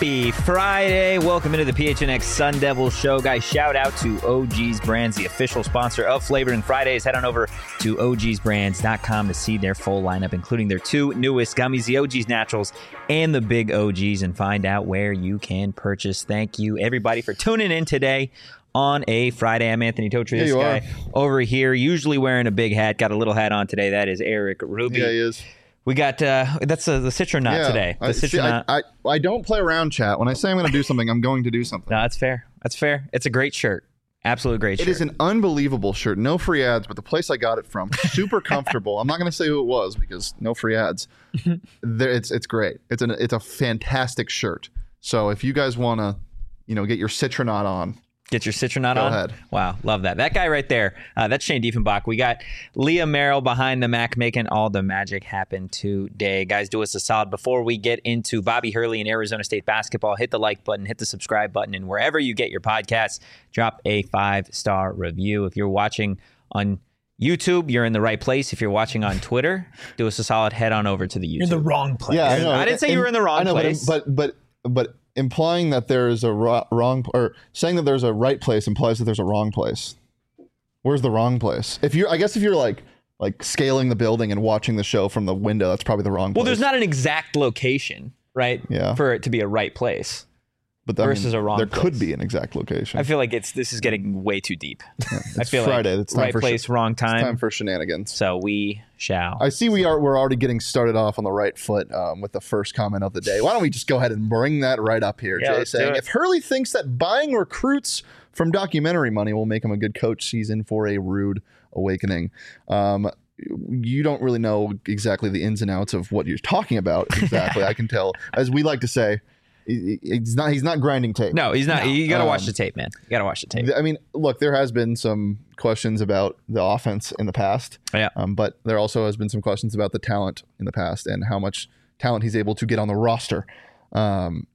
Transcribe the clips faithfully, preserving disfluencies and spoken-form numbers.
Happy Friday. Welcome into the P H N X Sun Devil Show. Guys, shout out to O G's Brands, the official sponsor of Flavoring Fridays. Head on over to O Gs brands dot com to see their full lineup, including their two newest gummies, the O G's Naturals and the Big O Gs, and find out where you can purchase. Thank you, everybody, for tuning in today on a Friday. I'm Anthony Totri. This guy are. over here, usually wearing a big hat, got a little hat on today. That is Eric Ruby. Yeah, he is. We got, uh, that's uh, the Citronaut yeah, today. The I, see, I, I, I don't play around, chat. When I say I'm going to do something, I'm going to do something. No, that's fair. That's fair. It's a great shirt. Absolute great shirt. It is an unbelievable shirt. No free ads, but the place I got it from, super comfortable. I'm not going to say who it was because no free ads. there, it's it's great. It's an it's a fantastic shirt. So if you guys want to, you know, get your Citronaut on. Get your Citronaut Go on? ahead. Wow, love that. That guy right there, uh, that's Shane Diefenbach. We got Leah Merrill behind the Mac making all the magic happen today. Guys, do us a solid. Before we get into Bobby Hurley and Arizona State basketball, hit the like button, hit the subscribe button, and wherever you get your podcasts, drop a five-star review. If you're watching on YouTube, you're in the right place. If you're watching on Twitter, do us a solid. Head on over to the YouTube. You're in the wrong place. Yeah, I know. I didn't say and, you were in the wrong I know, place. But but but, but implying that there is a ro- wrong, or saying that there's a right place implies that there's a wrong place. Where's the wrong place? If you, I guess if you're like like scaling the building and watching the show from the window, that's probably the wrong place. Well, there's not an exact location, right? Yeah. For it to be a right place. But that versus means a wrong there place. could be an exact location. I feel like it's this is getting way too deep. Yeah, I it's feel Friday. like It's time right for place, sh- wrong time. It's time for shenanigans. So we shall. I see we are we're already getting started off on the right foot um, with the first comment of the day. Why don't we just go ahead and bring that right up here? Yeah, Jay let's do saying it. if Hurley thinks that buying recruits from documentary money will make him a good coach, he's in for a rude awakening. Um, you don't really know exactly the ins and outs of what you're talking about. Exactly, I can tell. As we like to say, he- he's not he's not grinding tape. No, he's not. No. You got to watch Um, the tape, man. You got to watch the tape. I mean, look, there has been some questions about the offense in the past. Yeah. Um, but there also has been some questions about the talent in the past and how much talent he's able to get on the roster. Um,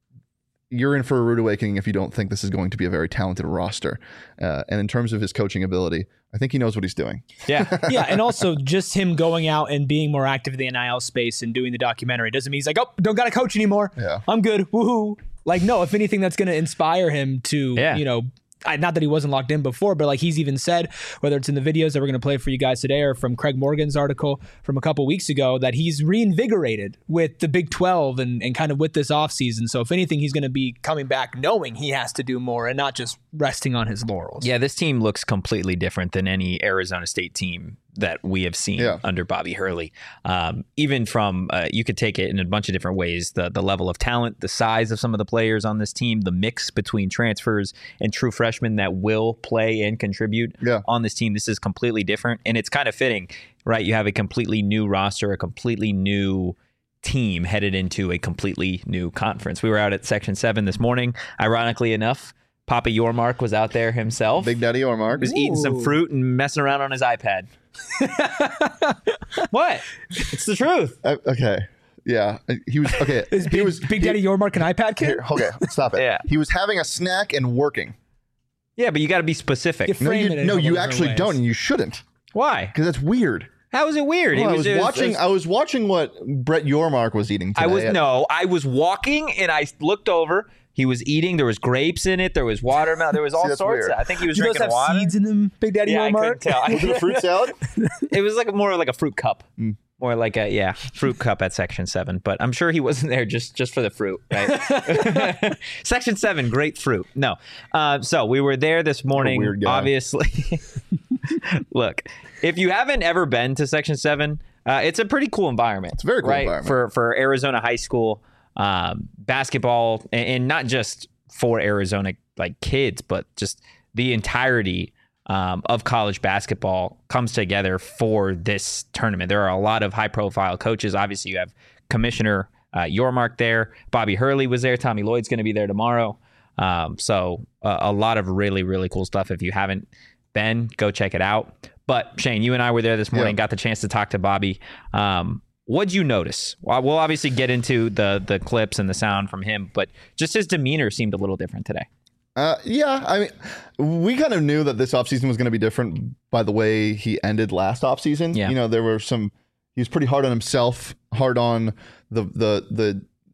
you're in for a rude awakening if you don't think this is going to be a very talented roster. Uh, and in terms of his coaching ability, I think he knows what he's doing. Yeah. Yeah, and also just him going out and being more active in the N I L space and doing the documentary doesn't mean he's like, oh, don't got to coach anymore. Yeah. I'm good. Woohoo. Like, no, if anything, that's going to inspire him to, Yeah. you know, I, not that he wasn't locked in before, but like he's even said, whether it's in the videos that we're going to play for you guys today or from Craig Morgan's article from a couple weeks ago, that he's reinvigorated with the Big twelve and, and kind of with this offseason. So if anything, he's going to be coming back knowing he has to do more and not just resting on his laurels. Yeah, this team looks completely different than any Arizona State team that we have seen Yeah. under Bobby Hurley. Um, even from, uh, you could take it in a bunch of different ways. The the level of talent, the size of some of the players on this team, the mix between transfers and true freshmen that will play and contribute Yeah. on this team. This is completely different. And it's kind of fitting, right? You have a completely new roster, a completely new team headed into a completely new conference. We were out at Section seven this morning. Ironically enough, Papa Yormark was out there himself. Big Daddy Ormark. He was eating some Ooh. fruit and messing around on his iPad. What? It's the truth. Uh, okay. Yeah. He was, okay. Is he Big, was, Big he- Daddy Yormark an iPad kid? Here, okay, stop it. Yeah. He was having a snack and working. Yeah, but you got to be specific. You No, frame you, it in a no, couple you different actually ways. don't, and you shouldn't, Why? because that's weird. How is it weird? Well, He I was it watching. it was- I was watching what Brett Yormark was eating today. I was at- no, I was walking and I looked over. He was eating. There was grapes in it. There was watermelon. There was all that's sorts. weird. Of, I think he was Do those drinking have water. seeds in them, Big Daddy Yeah, I couldn't Yormark? tell. Was it a fruit salad? It was like more like a fruit cup. Mm. More like a yeah fruit cup at Section seven, but I'm sure he wasn't there just just for the fruit, right? Section seven, great fruit. No, uh, so we were there this morning. weird guy. Obviously, look, if you haven't ever been to Section seven, uh, it's a pretty cool environment. It's a very cool right? environment. for for Arizona high school um, basketball, and, and not just for Arizona like kids, but just the entirety. Um, of college basketball comes together for this tournament. There are a lot of high-profile coaches. Obviously, you have Commissioner uh, Yormark there. Bobby Hurley was there. Tommy Lloyd's going to be there tomorrow. Um, so uh, a lot of really, really cool stuff. If you haven't been, go check it out. But Shane, you and I were there this morning, Yeah. got the chance to talk to Bobby. Um, what'd you notice? Well, we'll obviously get into the the clips and the sound from him, but just his demeanor seemed a little different today. Uh, yeah, I mean, we kind of knew that this offseason was going to be different by the way he ended last offseason. Yeah. You know, there were some, he was pretty hard on himself, hard on the, the, the,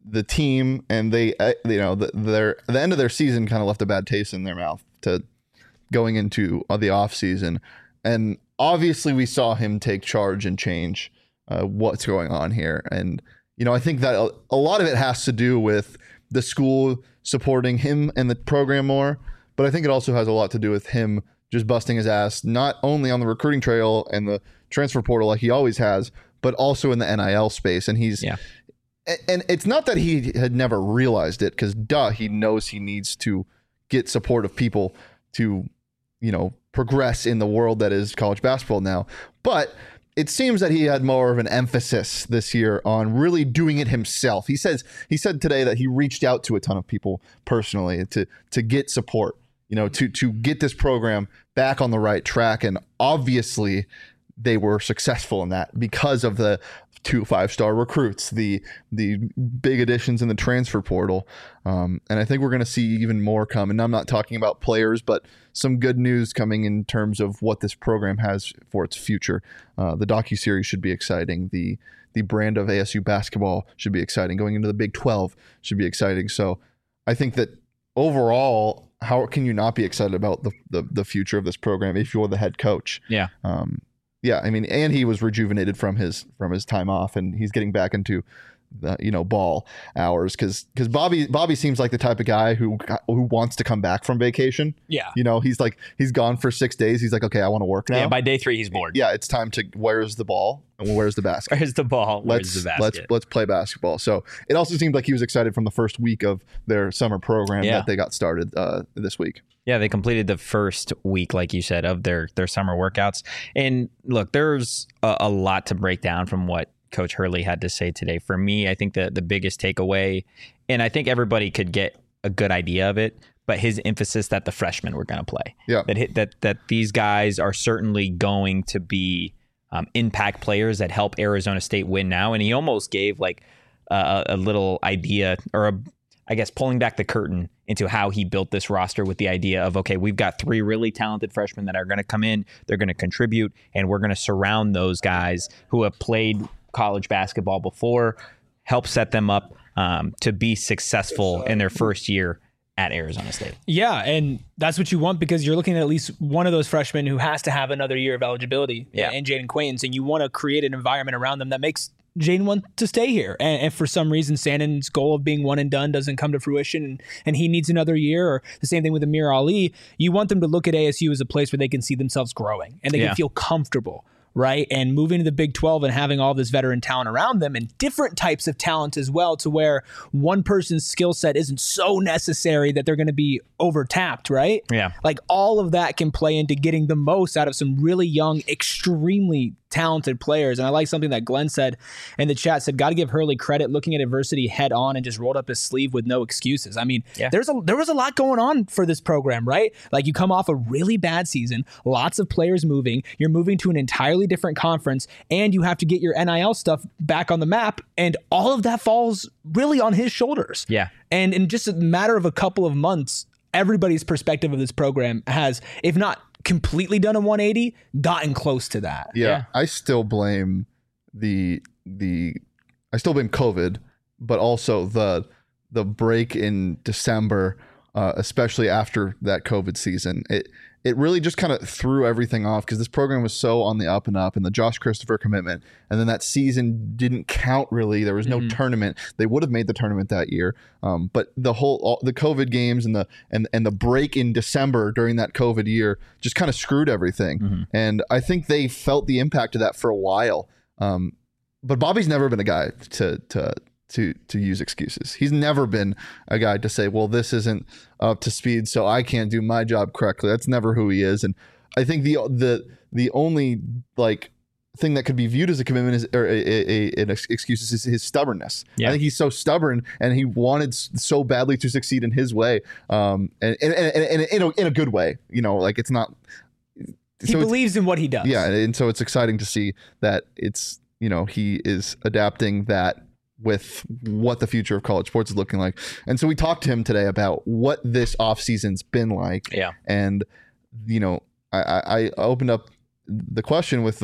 the team, and they, uh, you know, the, their the end of their season kind of left a bad taste in their mouth to going into uh, the off season, and obviously we saw him take charge and change uh, what's going on here, and you know, I think that a, a lot of it has to do with the school supporting him and the program more, but I think it also has a lot to do with him just busting his ass not only on the recruiting trail and the transfer portal like he always has, but also in the N I L space, and he's. Yeah. And it's not that he had never realized it, because duh, he knows he needs to get support of people to, you know, progress in the world that is college basketball now. But it seems that he had more of an emphasis this year on really doing it himself. He says he said today that he reached out to a ton of people personally to to get support, you know, to to get this program back on the right track. And obviously they were successful in that because of the two five-star recruits, the the big additions in the transfer portal. Um, and I think we're going to see even more come. And I'm not talking about players, but some good news coming in terms of what this program has for its future. Uh, the docuseries should be exciting. The the brand of A S U basketball should be exciting. Going into the Big twelve should be exciting. So I think that overall, how can you not be excited about the the, the future of this program if you're the head coach? Yeah. Um, Yeah, I mean, and he was rejuvenated from his from his time off, and he's getting back into the, you know, ball hours, because because Bobby Bobby seems like the type of guy who who wants to come back from vacation. Yeah. You know, he's like he's gone for six days. He's like, okay, I want to work now. Yeah, by day three, he's bored. Yeah, it's time to where's the ball and where's the basket. Where's the ball? Where's Let's the let's basket? let's play basketball. So it also seemed like he was excited from the first week of their summer program Yeah. that they got started uh, this week. Yeah, they completed the first week, like you said, of their their summer workouts. And look, there's a, a lot to break down from what Coach Hurley had to say today. For me, I think the the biggest takeaway, and I think everybody could get a good idea of it, but his emphasis that the freshmen were going to play. Yeah. That hit, that that these guys are certainly going to be um, impact players that help Arizona State win now. And he almost gave like a, a little idea, or a, I guess, pulling back the curtain into how he built this roster with the idea of, okay, we've got three really talented freshmen that are going to come in, they're going to contribute, and we're going to surround those guys who have played college basketball before, help set them up um, to be successful in their first year at Arizona State. Yeah, and that's what you want, because you're looking at at least one of those freshmen who has to have another year of eligibility, Yeah. and Jaden Quains, and you want to create an environment around them that makes Jaden want to stay here. And if for some reason Sandon's goal of being one and done doesn't come to fruition, and, and he needs another year, or the same thing with Amir Ali, you want them to look at A S U as a place where they can see themselves growing and they Yeah. can feel comfortable, right? And moving to the Big twelve and having all this veteran talent around them, and different types of talent as well, to where one person's skill set isn't so necessary that they're going to be overtapped, right? Yeah. Like all of that can play into getting the most out of some really young, extremely talented players. And I like something that Glenn said in the chat, said, got to give Hurley credit, looking at adversity head on and just rolled up his sleeve with no excuses. I mean, Yeah. there's a there was a lot going on for this program, right? Like, you come off a really bad season, lots of players moving, you're moving to an entirely different conference, and you have to get your N I L stuff back on the map, and all of that falls really on his shoulders. Yeah. And in just a matter of a couple of months, everybody's perspective of this program has, if not completely done a one eighty, gotten close to that. Yeah, Yeah. I still blame the the I still blame COVID, but also the the break in December, uh, especially after that COVID season. It it really just kind of threw everything off, because this program was so on the up and up, and the Josh Christopher commitment, and then that season didn't count really. There was no Mhm. tournament. They would have made the tournament that year, um, but the whole all, the COVID games and the and and the break in December during that COVID year just kind of screwed everything. Mhm. And I think they felt the impact of that for a while. Um, but Bobby's never been a guy to to to to use excuses. He's never been a guy to say, well, this isn't up to speed, so I can't do my job correctly. That's never who he is. And I think the the the only like thing that could be viewed as a commitment is, or a, a, a, an excuse is his stubbornness. Yeah. I think he's so stubborn, and he wanted s- so badly to succeed in his way, um, and, and, and, and in, a, in a good way. You know, like it's not. He so it's- believes in what he does. yeah, and so it's exciting to see that it's, you know, he is adapting that with what the future of college sports is looking like. And so we talked to him today about what this offseason's been like. Yeah. And, you know, I, I I opened up the question with the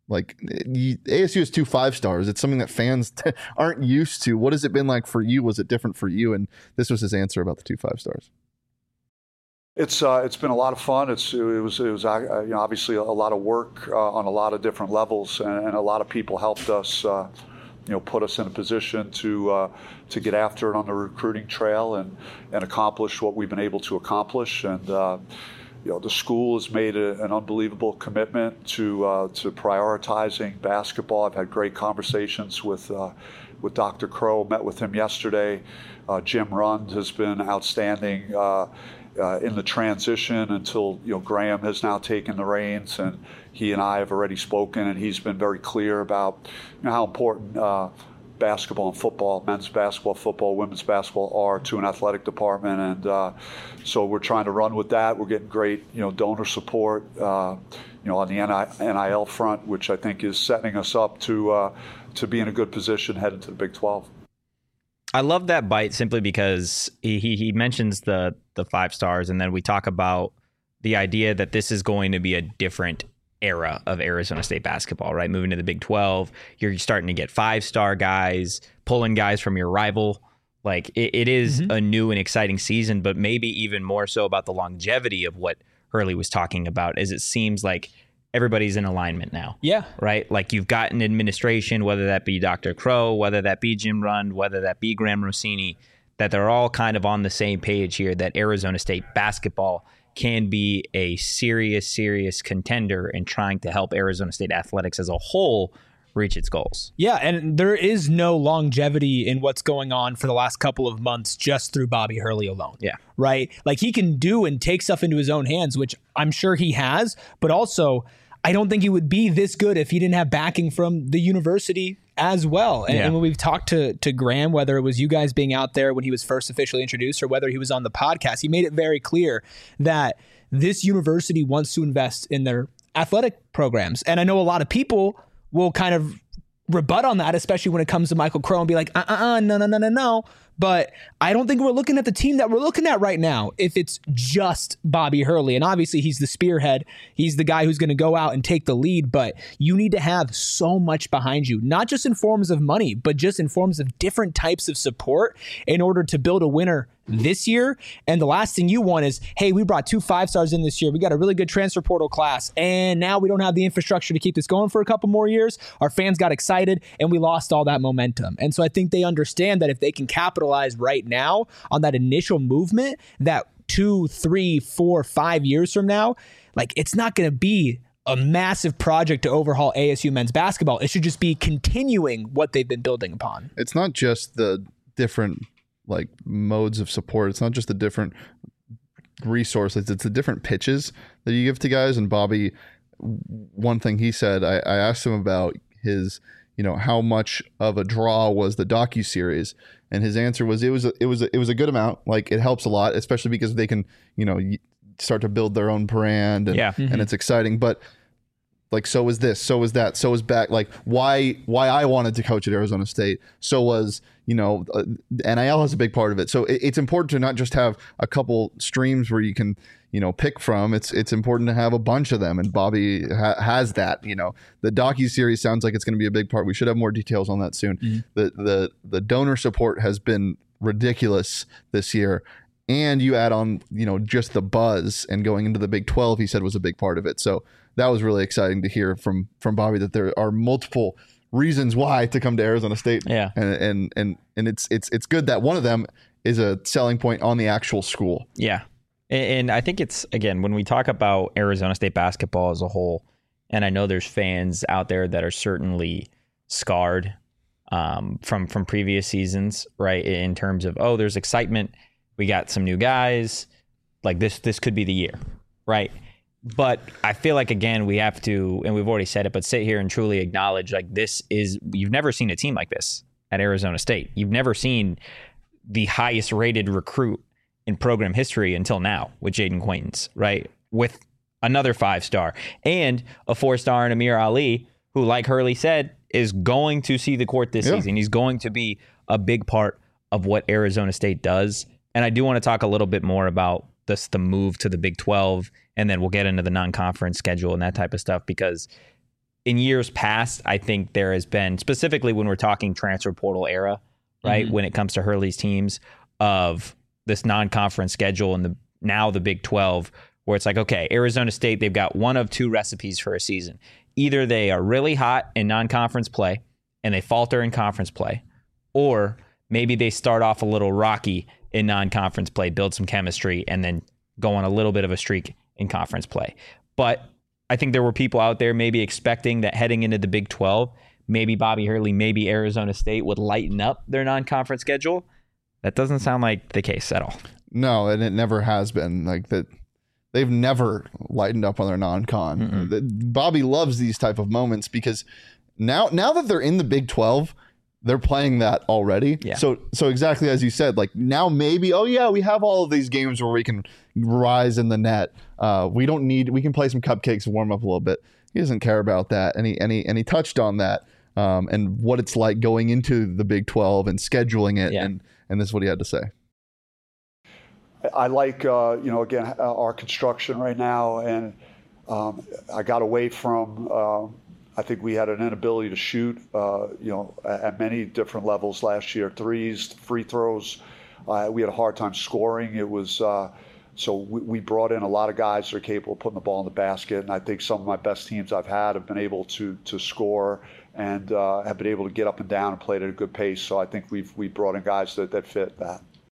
Like you, A S U has two five stars. It's something that fans t- aren't used to. What has it been like for you? Was it different for you? And this was his answer about the two five stars. It's uh, it's been a lot of fun. It's it was it was uh, you know, obviously a lot of work uh, on a lot of different levels, and, and a lot of people helped us. Uh, you know, put us in a position to uh, to get after it on the recruiting trail and and accomplish what we've been able to accomplish. And uh, you know, the school has made a, an unbelievable commitment to uh, to prioritizing basketball. I've had great conversations with uh, with Doctor Crow. Met with him yesterday. Uh, Jim Rund has been outstanding uh, uh, in the transition until you know Graham has now taken the reins, and he and I have already spoken, and he's been very clear about you know, how important uh, basketball and football, men's basketball, football, women's basketball are to an athletic department, and uh, so we're trying to run with that. We're getting great, you know, donor support, uh, you know, on the N I L front, which I think is setting us up to uh, to be in a good position heading to the Big twelve. I love that bite simply because he, he he mentions the the five stars, and then we talk about the idea that this is going to be a different era of Arizona State basketball, right? Moving to the Big twelve, you're starting to get five-star guys, pulling guys from your rival. Like it, it is mm-hmm. a new and exciting season, but maybe even more so about the longevity of what Hurley was talking about, as it seems like everybody's in alignment now. Yeah. Right? Like you've got an administration, whether that be Doctor Crow, whether that be Jim Rund, whether that be Graham Rossini, that they're all kind of on the same page here, that Arizona State basketball can be a serious, serious contender in trying to help Arizona State athletics as a whole reach its goals. Yeah, and there is no longevity in what's going on for the last couple of months just through Bobby Hurley alone. Yeah. Right? Like he can do and take stuff into his own hands, which I'm sure he has, but also I don't think he would be this good if he didn't have backing from the university as well. And, yeah. and when we've talked to to Graham, whether it was you guys being out there when he was first officially introduced or whether he was on the podcast, he made it very clear that this university wants to invest in their athletic programs. And I know a lot of people will kind of rebut on that, especially when it comes to Michael Crow and be like, uh-uh, no, no, no, no, no. But I don't think we're looking at the team that we're looking at right now if it's just Bobby Hurley. And obviously he's the spearhead. He's the guy who's going to go out and take the lead. But you need to have so much behind you, not just in forms of money, but just in forms of different types of support in order to build a winner this year. And the last thing you want is, hey, we brought two five stars in this year. We got a really good transfer portal class. And now we don't have the infrastructure to keep this going for a couple more years. Our fans got excited and we lost all that momentum. And so I think they understand that if they can capitalize right now on that initial movement, that two, three, four, five years from now, like it's not going to be a massive project to overhaul A S U men's basketball. It should just be continuing what they've been building upon. It's not just the different like modes of support. It's not just the different resources. It's the different pitches that you give to guys. And Bobby, one thing he said, I, I asked him about his, you know, how much of a draw was the docuseries, and his answer was it was a, it was a, it was a good amount. Like it helps a lot, especially because they can, you know, start to build their own brand, and, yeah. and it's exciting. But like, so was this, so was that, so was back. Like why, why I wanted to coach at Arizona State. So was, you know, uh, N I L has a big part of it. So it, it's important to not just have a couple streams where you can, you know, pick from. It's, it's important to have a bunch of them. And Bobby ha- has that, you know, the docuseries sounds like it's going to be a big part. We should have more details on that soon. Mm-hmm. The, the, the donor support has been ridiculous this year. And you add on, you know, just the buzz and going into the Big twelve, he said was a big part of it. So that was really exciting to hear from from Bobby that there are multiple reasons why to come to Arizona State. Yeah. And and and and it's it's it's good that one of them is a selling point on the actual school. Yeah. And I think it's, again, when we talk about Arizona State basketball as a whole, and I know there's fans out there that are certainly scarred um, from from previous seasons, right? In terms of, oh, there's excitement. We got some new guys. Like this, this could be the year, right? But I feel like, again, we have to, and we've already said it, but sit here and truly acknowledge, like, this is, you've never seen a team like this at Arizona State. You've never seen the highest rated recruit in program history until now with Jaden Quaintance, right? With another five star and a four star in Amir Ali, who, like Hurley said, is going to see the court this yeah. season. He's going to be a big part of what Arizona State does. And I do want to talk a little bit more about this, the move to the Big twelve, and then we'll get into the non-conference schedule and that type of stuff, because in years past, I think there has been, specifically when we're talking transfer portal era, right? Mm-hmm. When it comes to Hurley's teams, of this non-conference schedule and the now the Big twelve, where it's like, okay, Arizona State, they've got one of two recipes for a season. Either they are really hot in non-conference play and they falter in conference play, or maybe they start off a little rocky in non-conference play, build some chemistry, and then go on a little bit of a streak in conference play. But I think there were people out there maybe expecting that heading into the Big twelve, maybe Bobby Hurley, maybe Arizona State would lighten up their non-conference schedule. That doesn't sound like the case at all. No, and it never has been. Like that, they've never lightened up on their non-con. Mm-hmm. Bobby loves these type of moments because now, now that they're in the Big twelve, they're playing that already. Yeah. So, so exactly as you said, like now maybe, oh yeah, we have all of these games where we can rise in the net. Uh, we don't need. We can play some cupcakes and warm up a little bit. He doesn't care about that, and he and he and he touched on that um, and what it's like going into the Big twelve and scheduling it yeah. and. And this is what he had to say. I like, uh, you know, again, our construction right now. And um, I got away from, uh, I think we had an inability to shoot, uh, you know, at many different levels last year. Threes, free throws. Uh, we had a hard time scoring. It was, uh, so we, we brought in a lot of guys that are capable of putting the ball in the basket. And I think some of my best teams I've had have been able to to score and uh, have been able to get up and down and play at a good pace. So I think we've we brought in guys that, that fit that.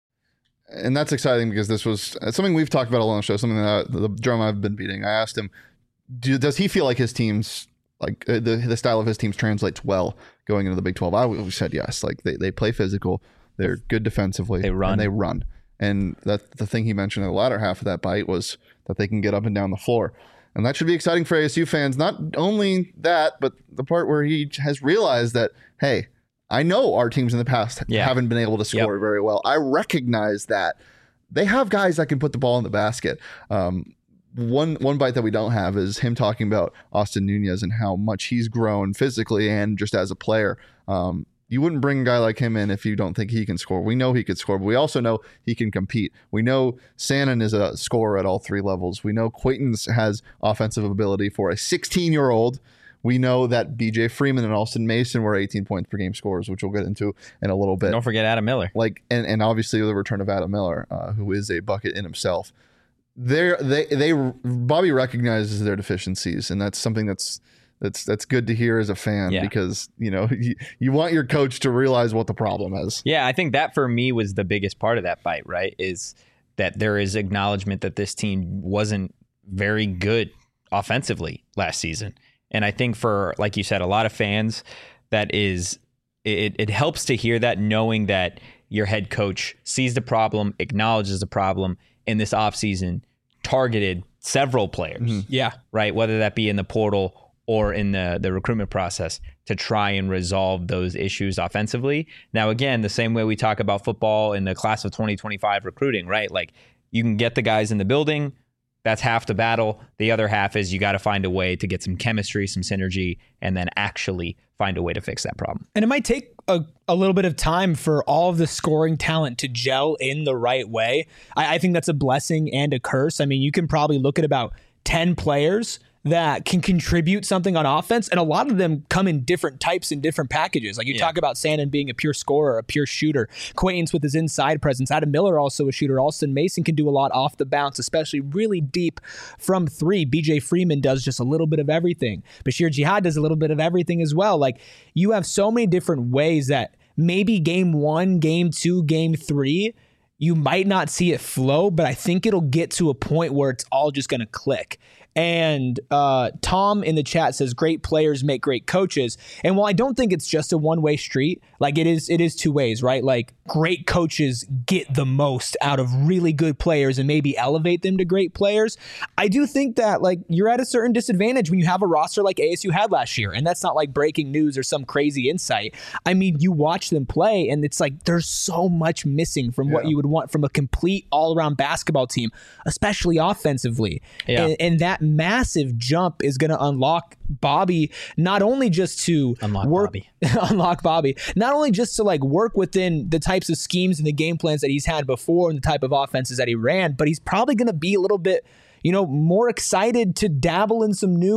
And that's exciting because this was something we've talked about a lot on the show, something that I, the drum I've been beating. I asked him, do, does he feel like his teams, like uh, the the style of his teams translates well going into the Big twelve? I always said yes. Like they, they play physical, they're good defensively, they run. and they run. And that the thing he mentioned in the latter half of that bite was that they can get up and down the floor. And that should be exciting for A S U fans. Not only that, but the part where he has realized that, hey, I know our teams in the past yeah. haven't been able to score yep. very well. I recognize that. They have guys that can put the ball in the basket. Um, one one bite that we don't have is him talking about Austin Nunez and how much he's grown physically and just as a player. Um, you wouldn't bring a guy like him in if you don't think he can score. We know he could score, but we also know he can compete. We know Sannon is a scorer at all three levels. We know Quaintance has offensive ability for a sixteen-year-old. We know that B J Freeman and Alston Mason were eighteen points per game scorers, which we'll get into in a little bit. Don't forget Adam Miller. Like, and, and obviously the return of Adam Miller, uh, who is a bucket in himself. They're, they they Bobby recognizes their deficiencies, and that's something that's that's that's good to hear as a fan yeah. because you know you, you want your coach to realize what the problem is. Yeah, I think that for me was the biggest part of that fight. Right, is that there is acknowledgement that this team wasn't very good offensively last season. And I think for, like you said, a lot of fans, that is, it, it helps to hear that, knowing that your head coach sees the problem, acknowledges the problem, in this offseason targeted several players. Mm-hmm. Yeah. Right. Whether that be in the portal or in the, the recruitment process to try and resolve those issues offensively. Now, again, the same way we talk about football in the class of twenty twenty-five recruiting, right? Like you can get the guys in the building. That's half the battle. The other half is you got to find a way to get some chemistry, some synergy, and then actually find a way to fix that problem. And it might take a, a little bit of time for all of the scoring talent to gel in the right way. I, I think that's a blessing and a curse. I mean, you can probably look at about ten players that can contribute something on offense, and a lot of them come in different types and different packages. Like you yeah. talk about Sannon being a pure scorer, a pure shooter, Quaintance with his inside presence, Adam Miller also a shooter, Alston Mason can do a lot off the bounce, especially really deep from three. B J Freeman does just a little bit of everything. Bashir Jihad does a little bit of everything as well. Like you have so many different ways that maybe game one, game two, game three, you might not see it flow, but I think it'll get to a point where it's all just going to click. And uh, Tom in the chat says, great players make great coaches. And while I don't think it's just a one-way street, like it is, it is two ways, right? Like great coaches get the most out of really good players and maybe elevate them to great players. I do think that like you're at a certain disadvantage when you have a roster like A S U had last year. And that's not like breaking news or some crazy insight. I mean, you watch them play and it's like there's so much missing from yeah. what you would want from a complete all-around basketball team, especially offensively. Yeah. And, and that massive jump is going to unlock Bobby, not only just to unlock work, Bobby. unlock Bobby, not only just to like work within the types of schemes and the game plans that he's had before and the type of offenses that he ran, but he's probably going to be a little bit, you know, more excited to dabble in some new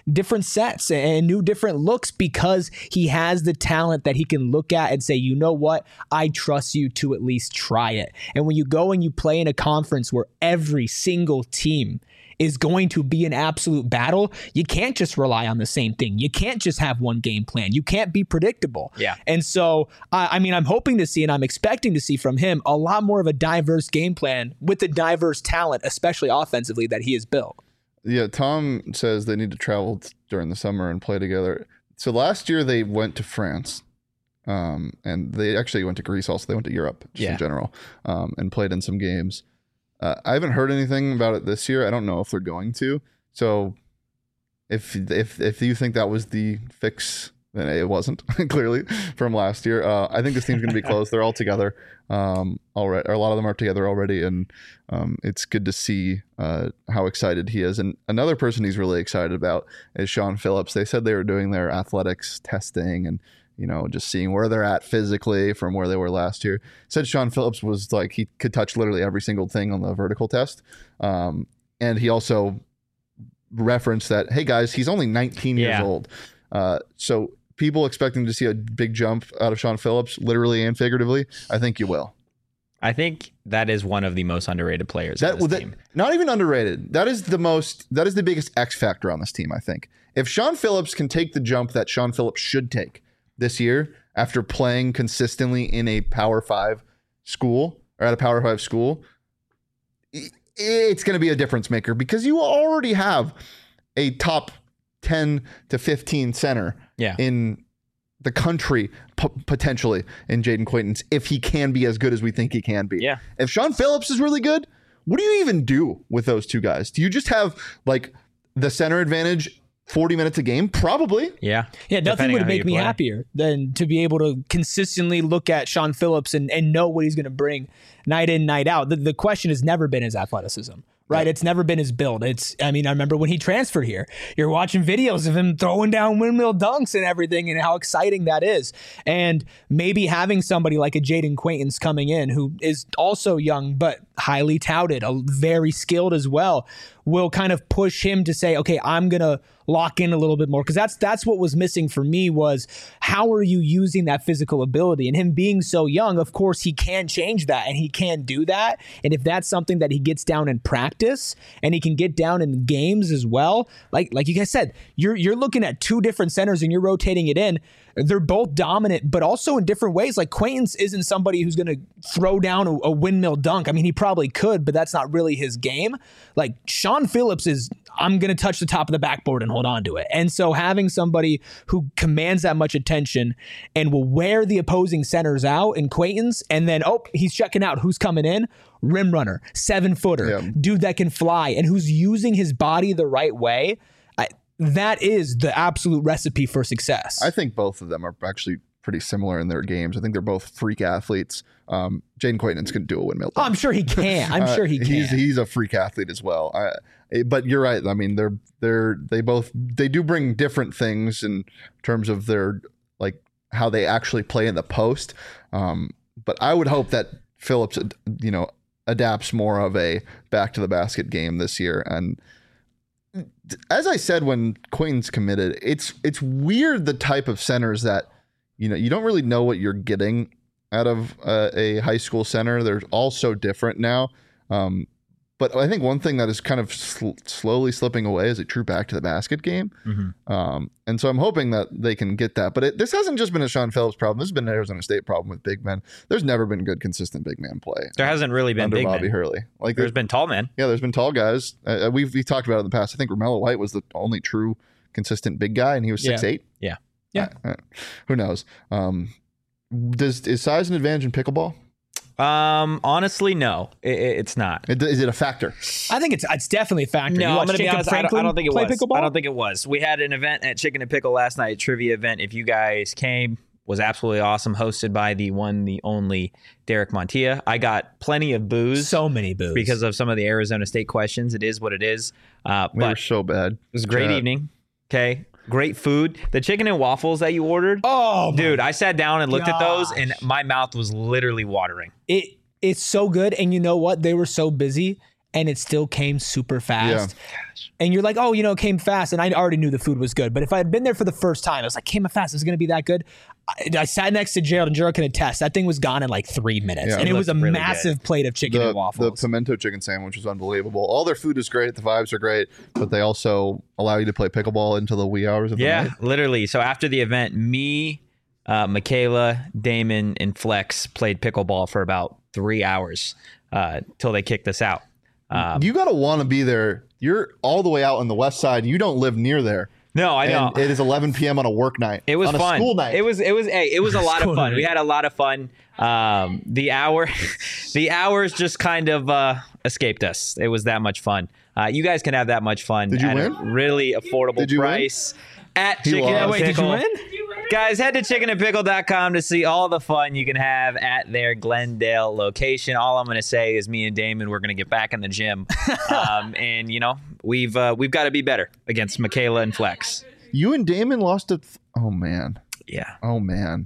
different sets and new different looks because he has the talent that he can look at and say, you know what, I trust you to at least try it. And when you go and you play in a conference where every single team is going to be an absolute battle, you can't just rely on the same thing. You can't just have one game plan. You can't be predictable. Yeah. And so, I, I mean, I'm hoping to see and I'm expecting to see from him a lot more of a diverse game plan with the diverse talent, especially offensively, that he has built. Yeah, Tom says they need to travel t- during the summer and play together. So last year they went to France, um, and they actually went to Greece also. They went to Europe just Yeah. in general, um, and played in some games. Uh, I haven't heard anything about it this year. I don't know if they're going to. So if if if you think that was the fix, then it wasn't clearly from last year. Uh, I think this team's going to be close. They're all together um, already. Or a lot of them are together already, and um, it's good to see uh, how excited he is. And another person he's really excited about is Sean Phillips. They said they were doing their athletics testing and, you know, just seeing where they're at physically from where they were last year. Said Sean Phillips was like, he could touch literally every single thing on the vertical test. Um, and he also referenced that, hey guys, he's only nineteen Yeah. years old. Uh, so people expecting to see a big jump out of Sean Phillips, literally and figuratively, I think you will. I think that is one of the most underrated players That, on this that team. not even underrated. That is the most. That is the biggest X factor on this team. I think if Sean Phillips can take the jump that Sean Phillips should take this year after playing consistently in a Power Five school or at a Power Five school, it's going to be a difference maker because you already have a top ten to fifteen center Yeah. in the country, p- potentially in Jaden Quaintance, if he can be as good as we think he can be. Yeah. If Sean Phillips is really good, what do you even do with those two guys? Do you just have like the center advantage forty minutes a game? Probably. Yeah. Yeah, nothing Depending would on who make you me play. happier than to be able to consistently look at Sean Phillips and, and know what he's going to bring night in, night out. The, the question has never been his athleticism, right? It's never been his build. It's, I mean, I remember when he transferred here, you're watching videos of him throwing down windmill dunks and everything and how exciting that is. And maybe having somebody like a Jaden Quaintance coming in who is also young, but highly touted, a very skilled as well, will kind of push him to say, okay, I'm going to lock in a little bit more. Cause that's, that's what was missing for me was how are you using that physical ability? And him being so young, of course he can change that and he can do that. And if that's something that he gets down in practice and he can get down in games as well, like, like you guys said, you're, you're looking at two different centers and you're rotating it in. They're both dominant, but also in different ways. Like Quaintance isn't somebody who's going to throw down a, a windmill dunk. I mean, he probably could, but that's not really his game. Like Sean Phillips is, I'm going to touch the top of the backboard and hold on to it. And so having somebody who commands that much attention and will wear the opposing centers out in Quaintance, and then, oh, he's checking out who's coming in, rim runner, seven footer, Yeah. dude that can fly and who's using his body the right way. I, that is the absolute recipe for success. I think both of them are actually pretty similar in their games. I think they're both freak athletes. Um, Jaden Quaintance can do a windmill. Oh, I'm sure he can. I'm Uh, sure he can. He's he's a freak athlete as well. I, eh, but you're right. I mean, they're they're they both they do bring different things in terms of their like how they actually play in the post. Um, but I would hope that Phillips, you know, adapts more of a back to the basket game this year. And as I said when Quaintance committed, it's it's weird the type of centers that, you know, you don't really know what you're getting out of uh, a high school center. They're all so different now. Um, but I think one thing that is kind of sl- slowly slipping away is a true back to the basket game. Mm-hmm. Um, and so I'm hoping that they can get that. But it, this hasn't just been a Sean Phillips problem. This has been an Arizona State problem with big men. There's never been good, consistent big man play There hasn't really been under big Bobby men. Hurley. Like There's been tall men. yeah, there's been tall guys. Uh, we've we talked about it in the past. I think Romello White was the only true consistent big guy, and he was Yeah. six eight. Yeah. Yeah. Uh, uh, who knows? Um, does is size an advantage in pickleball? Um, honestly, no, it, it- it's not. It- Is it a factor? I think it's it's definitely a factor. You No, I'm watch gonna be Jacob honest. I don't, I Franklin don't think it play was. pickleball? I don't think it was. We had an event at Chicken and Pickle last night, a trivia event. If you guys came, was absolutely awesome. Hosted by the one, the only Derek Montilla. I got plenty of booze so many boos because of some of the Arizona State questions. It is what it is. Uh, We but were so bad. it was a great Chat. evening. Okay, great food. The chicken and waffles that you ordered. Oh, Dude, my- I sat down and looked at those, gosh. and my mouth was literally watering. it it's so good. And you know what? They were so busy. and it still came super fast. Yeah. And you're like, oh, you know, it came fast. And I already knew the food was good. But if I had been there for the first time, I was like, came fast. Is it going to be that good? I, I sat next to Gerald, and Gerald can attest. That thing was gone in like three minutes. Yeah, and it, it was a really massive good. plate of chicken the, and waffles. The pimento chicken sandwich was unbelievable. All their food is great. The vibes are great. But they also allow you to play pickleball into the wee hours of the yeah, night. Yeah, literally. So after the event, me, uh, Michaela, Damon, and Flex played pickleball for about three hours uh, till they kicked us out. Um, you got to want to be there. You're all the way out on the west side. You don't live near there. No, I know. And it is eleven p.m. on a work night. It was on fun. A school night. It was. It was. Hey, it was a lot of fun. Night. We had a lot of fun. Um, the hour, the hours just kind of uh, escaped us. It was that much fun. Uh, you guys can have that much fun. Did you at win? A really affordable did you price win? At he Chicken lost. and Wait, Pickle. did you win? Guys, head to chicken and pickle dot com to see all the fun you can have at their Glendale location. All I'm going to say is me and Damon, we're going to get back in the gym. um, and, you know, we've uh, we've got to be better against Michaela and Flex. You and Damon lost to... Th- oh, man. Yeah. Oh, man.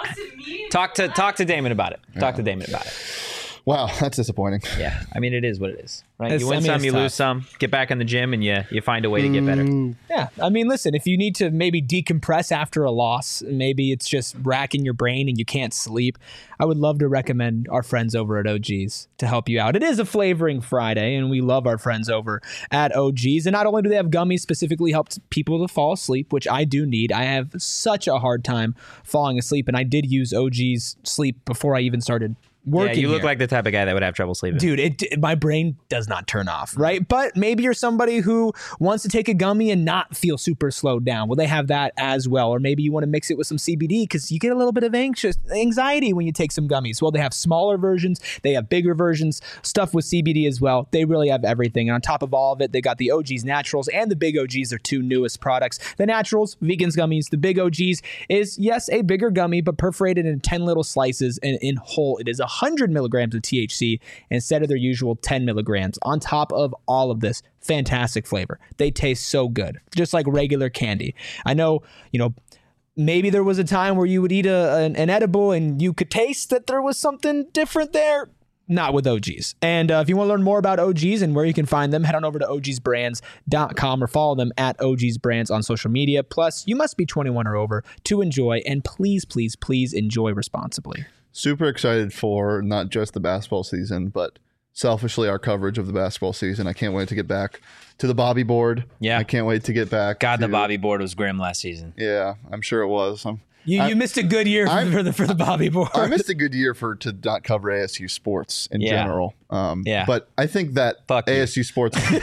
Talk to talk to Damon about it. Talk yeah. to Damon about it. Wow, that's disappointing. Yeah, I mean, it is what it is, right? It's, you win I mean, some, you tough. lose some. Get back in the gym, and you you find a way to get better. Yeah, I mean, listen, if you need to maybe decompress after a loss, maybe it's just racking your brain and you can't sleep, I would love to recommend our friends over at O G's to help you out. It is a Flavoring Friday, and we love our friends over at O G's. And not only do they have gummies specifically help people to fall asleep, which I do need. I have such a hard time falling asleep, and I did use O G's sleep before I even started working. Yeah, you look here. like the type of guy that would have trouble sleeping. Dude, it, my brain does not turn off, right? But maybe you're somebody who wants to take a gummy and not feel super slowed down. Well, they have that as well. Or maybe you want to mix it with some C B D because you get a little bit of anxious anxiety when you take some gummies. Well, they have smaller versions. They have bigger versions, stuff with C B D as well. They really have everything. And on top of all of it, they got the O G's Naturals and the Big O G's, their two newest products. The Naturals, Vegans Gummies. The Big O G's is, yes, a bigger gummy, but perforated in ten little slices. And in whole, it is one hundred milligrams of T H C instead of their usual ten milligrams. On top of all of this, fantastic flavor. They taste so good, just like regular candy. I know, you know, maybe there was a time where you would eat a, an, an edible and you could taste that there was something different there. Not with O G's. And uh, if you want to learn more about O G's and where you can find them, head on over to O Gs brands dot com or follow them at O G's Brands on social media. Plus, you must be twenty-one or over to enjoy, and please, please, please enjoy responsibly. Super excited for not just the basketball season, but selfishly our coverage of the basketball season. I can't wait to get back to the Bobby board. Yeah. I can't wait to get back. God, to, the Bobby board was grim last season. Yeah, I'm sure it was. I'm, You I, you missed a good year for, for the for the Bobby board. I missed a good year for to not cover A S U sports in Yeah. general. Um, Yeah. But I think that Fuck you. A S U sports. I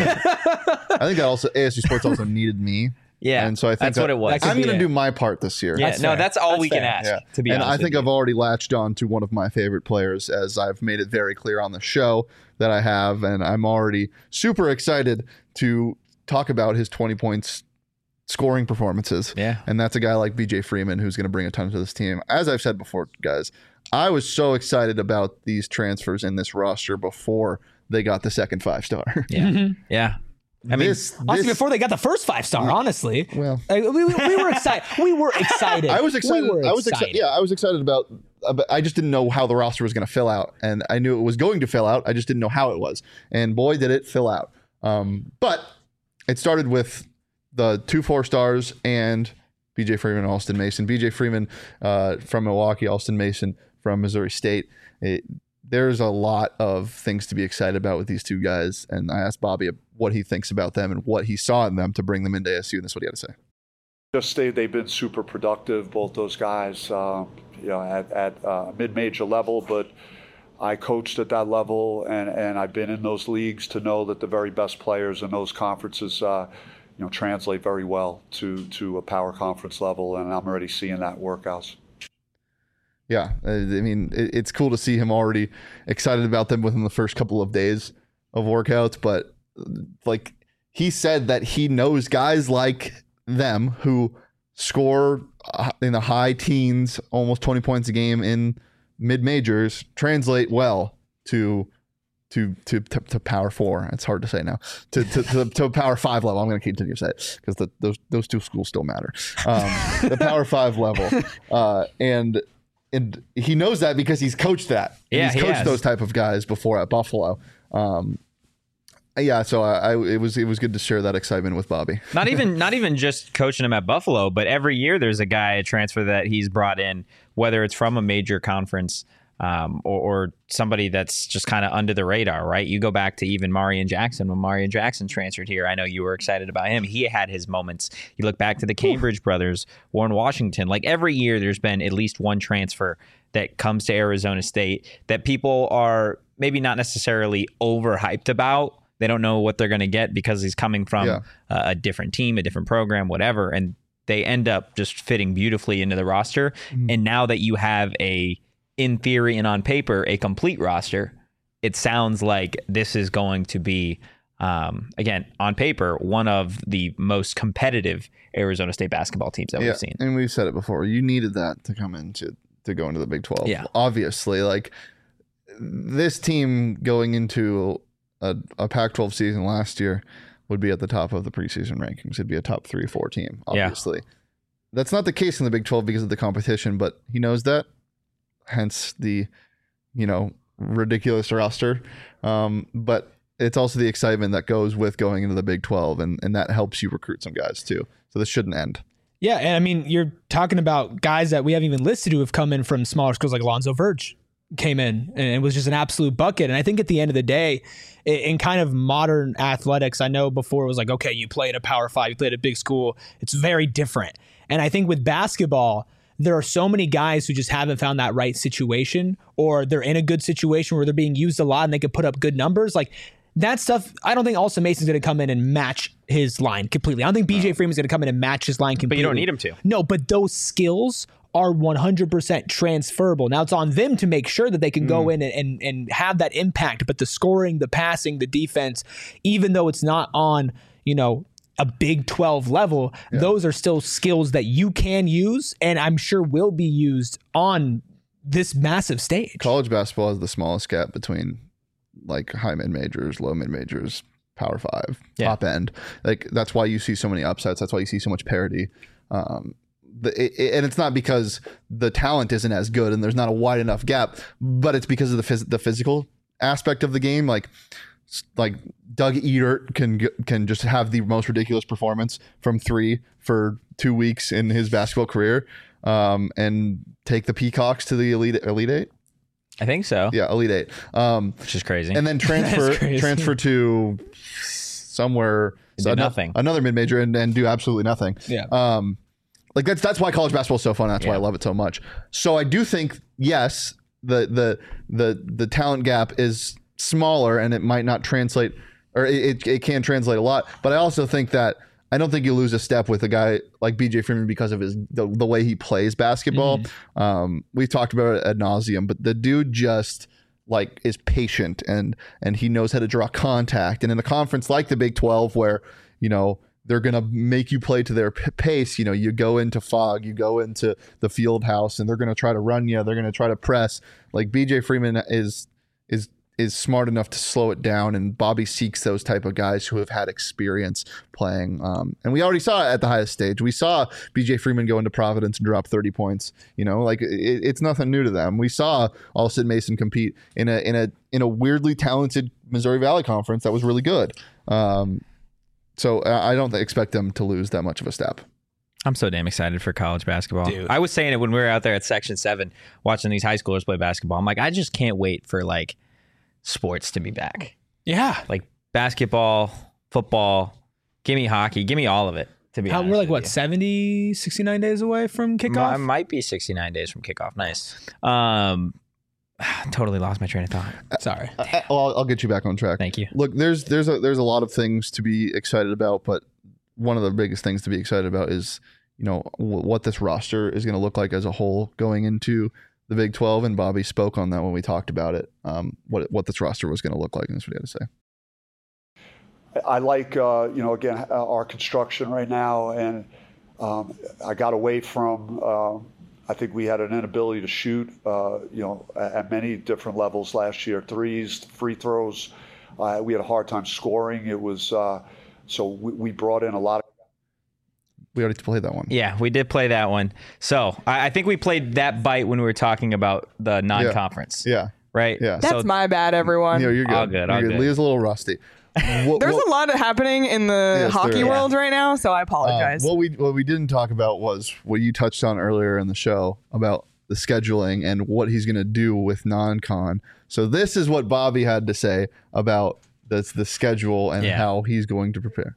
think that also A S U sports also needed me. Yeah, and so I think that's that, what it was. That could I'm be going to it. do my part this year. Yeah, That's no, fair. that's all That's we can fair. ask. Yeah. To be and honest, I think with I've you. already latched on to one of my favorite players, as I've made it very clear on the show that I have, and I'm already super excited to talk about his twenty points scoring performances. Yeah. And that's a guy like B J Freeman who's going to bring a ton to this team. As I've said before, guys, I was so excited about these transfers in this roster before they got the second five star. Yeah, yeah. I mean, this, Honestly, this before they got the first five star, honestly, well, like, we, we we were excited. We were excited. I was excited. We were I was excited. Yeah, I was excited about. about I just didn't know how the roster was going to fill out, and I knew it was going to fill out. I just didn't know how it was, and boy, did it fill out. Um, but it started with the two four stars and B J Freeman and Austin Mason. B J Freeman uh, from Milwaukee, Austin Mason from Missouri State. It, there's a lot of things to be excited about with these two guys, and I asked Bobby what he thinks about them and what he saw in them to bring them into A S U, and that's what he had to say. Just they, they've been super productive, both those guys, uh, you know, at, at uh, mid-major level, but I coached at that level, and, and I've been in those leagues to know that the very best players in those conferences, uh, you know, translate very well to, to a power conference level, and I'm already seeing that workouts. Yeah, I mean, it's cool to see him already excited about them within the first couple of days of workouts. But like he said that he knows guys like them who score in the high teens, almost twenty points a game in mid majors, translate well to to to to, to power four. It's hard to say now. To to, to, to power five level. I'm going to continue to say it because those those two schools still matter. Um, the power five level, uh, and. And he knows that because he's coached that. And Yeah, he's he coached has. those type of guys before at Buffalo. Um, Yeah, so I, I it was it was good to share that excitement with Bobby. Not even not even just coaching him at Buffalo, but every year there's a guy, a transfer that he's brought in, whether it's from a major conference um, or, or somebody that's just kind of under the radar, right? You go back to even Marion Jackson when Marion Jackson transferred here. I know you were excited about him. He had his moments. You look back to the Cambridge Ooh. brothers, Warren Washington. Like every year, there's been at least one transfer that comes to Arizona State that people are maybe not necessarily overhyped about. They don't know what they're going to get because he's coming from yeah. a, a different team, a different program, whatever. And they end up just fitting beautifully into the roster. Mm-hmm. And now that you have a, in theory and on paper, a complete roster, it sounds like this is going to be, um, again, on paper, one of the most competitive Arizona State basketball teams that yeah. we've seen. And we've said it before. You needed that to come into to go into the Big twelve. Yeah. Obviously, like this team going into a, a Pac twelve season last year would be at the top of the preseason rankings. It'd be a top three, four team, obviously. Yeah. That's not the case in the Big twelve because of the competition, but he knows that. Hence the, you know, ridiculous roster. Um, but it's also the excitement that goes with going into the Big twelve, and, and that helps you recruit some guys too. So this shouldn't end. Yeah, and I mean, you're talking about guys that we haven't even listed who have come in from smaller schools, like Alonzo Verge came in and it was just an absolute bucket. And I think at the end of the day, in kind of modern athletics, I know before it was like, okay, you play at a Power Five, you play at a big school. It's very different. And I think with basketball, there are so many guys who just haven't found that right situation, or they're in a good situation where they're being used a lot and they could put up good numbers. Like that stuff, I don't think Austin Mason's going to come in and match his line completely. I don't think B J no. Freeman's going to come in and match his line completely. But you don't need him to. No, but those skills are one hundred percent transferable. Now it's on them to make sure that they can mm. go in and, and, and have that impact. But the scoring, the passing, the defense, even though it's not on, you know, a Big twelve level, yeah. those are still skills that you can use and I'm sure will be used on this massive stage. College basketball has the smallest gap between like high mid majors, low mid majors, Power Five, yeah. top end. Like that's why you see so many upsets. That's why you see so much parity. Um, the, it, it, and it's not because the talent isn't as good and there's not a wide enough gap, but it's because of the phys- the physical aspect of the game. Like like Doug Edert can can just have the most ridiculous performance from three for two weeks in his basketball career, um, and take the Peacocks to the elite elite eight. I think so. Yeah, Elite Eight. Um, Which is crazy. And then transfer transfer to somewhere so another, nothing. Another mid major and, and do absolutely nothing. Yeah. Um, like that's that's why college basketball is so fun. That's yeah. why I love it so much. So I do think yes, the the the the talent gap is smaller and it might not translate, or it it can translate a lot. But I also think that I don't think you lose a step with a guy like B J Freeman because of his the, the way he plays basketball. Mm-hmm. Um, we've talked about it ad nauseum, but the dude just like is patient and and he knows how to draw contact. And in a conference like the Big twelve, where you know they're gonna make you play to their p- pace, you know, you go into Fog, you go into the field house, and they're gonna try to run you. They're gonna try to press. Like B J Freeman is is. is smart enough to slow it down, and Bobby seeks those type of guys who have had experience playing. Um, and we already saw it at the highest stage. We saw B J Freeman go into Providence and drop thirty points. You know, like it, it's nothing new to them. We saw Austin Mason compete in a in a in a weirdly talented Missouri Valley Conference that was really good. Um, so I don't expect them to lose that much of a step. I'm so damn excited for college basketball. Dude. I was saying it when we were out there at Section seven watching these high schoolers play basketball. I'm like, I just can't wait for like sports to be back. Yeah. Like basketball, football, give me hockey, give me all of it, to be How, honest. We're like, what, you. seventy, sixty-nine days away from kickoff? I might be sixty-nine days from kickoff. Nice. Um, totally lost my train of thought. Sorry. Uh, well, I'll, I'll get you back on track. Thank you. Look, there's there's a there's a lot of things to be excited about, but one of the biggest things to be excited about is, you know, w- what this roster is going to look like as a whole going into the Big twelve, and Bobby spoke on that when we talked about it, um, what what this roster was going to look like, and that's what he had to say. I like, uh, you know, again, our construction right now, and um, I got away from, uh, I think we had an inability to shoot, uh, you know, at many different levels last year, threes, free throws. Uh, we had a hard time scoring. It was, uh, so we, we brought in a lot of. We already played that one. Yeah, we did play that one. So I, I think we played that bite when we were talking about the non-conference. Yeah. Right? Yeah. That's so, my bad, everyone. Yeah, you're good. All good, You're all good. good. Leah's a little rusty. what, There's what, a lot happening in the Yes, hockey there is. world right now, so I uh, apologize. what we what we didn't talk about was what you touched on earlier in the show about the scheduling and what he's going to do with non-con. So this is what Bobby had to say about the the schedule and Yeah. how he's going to prepare.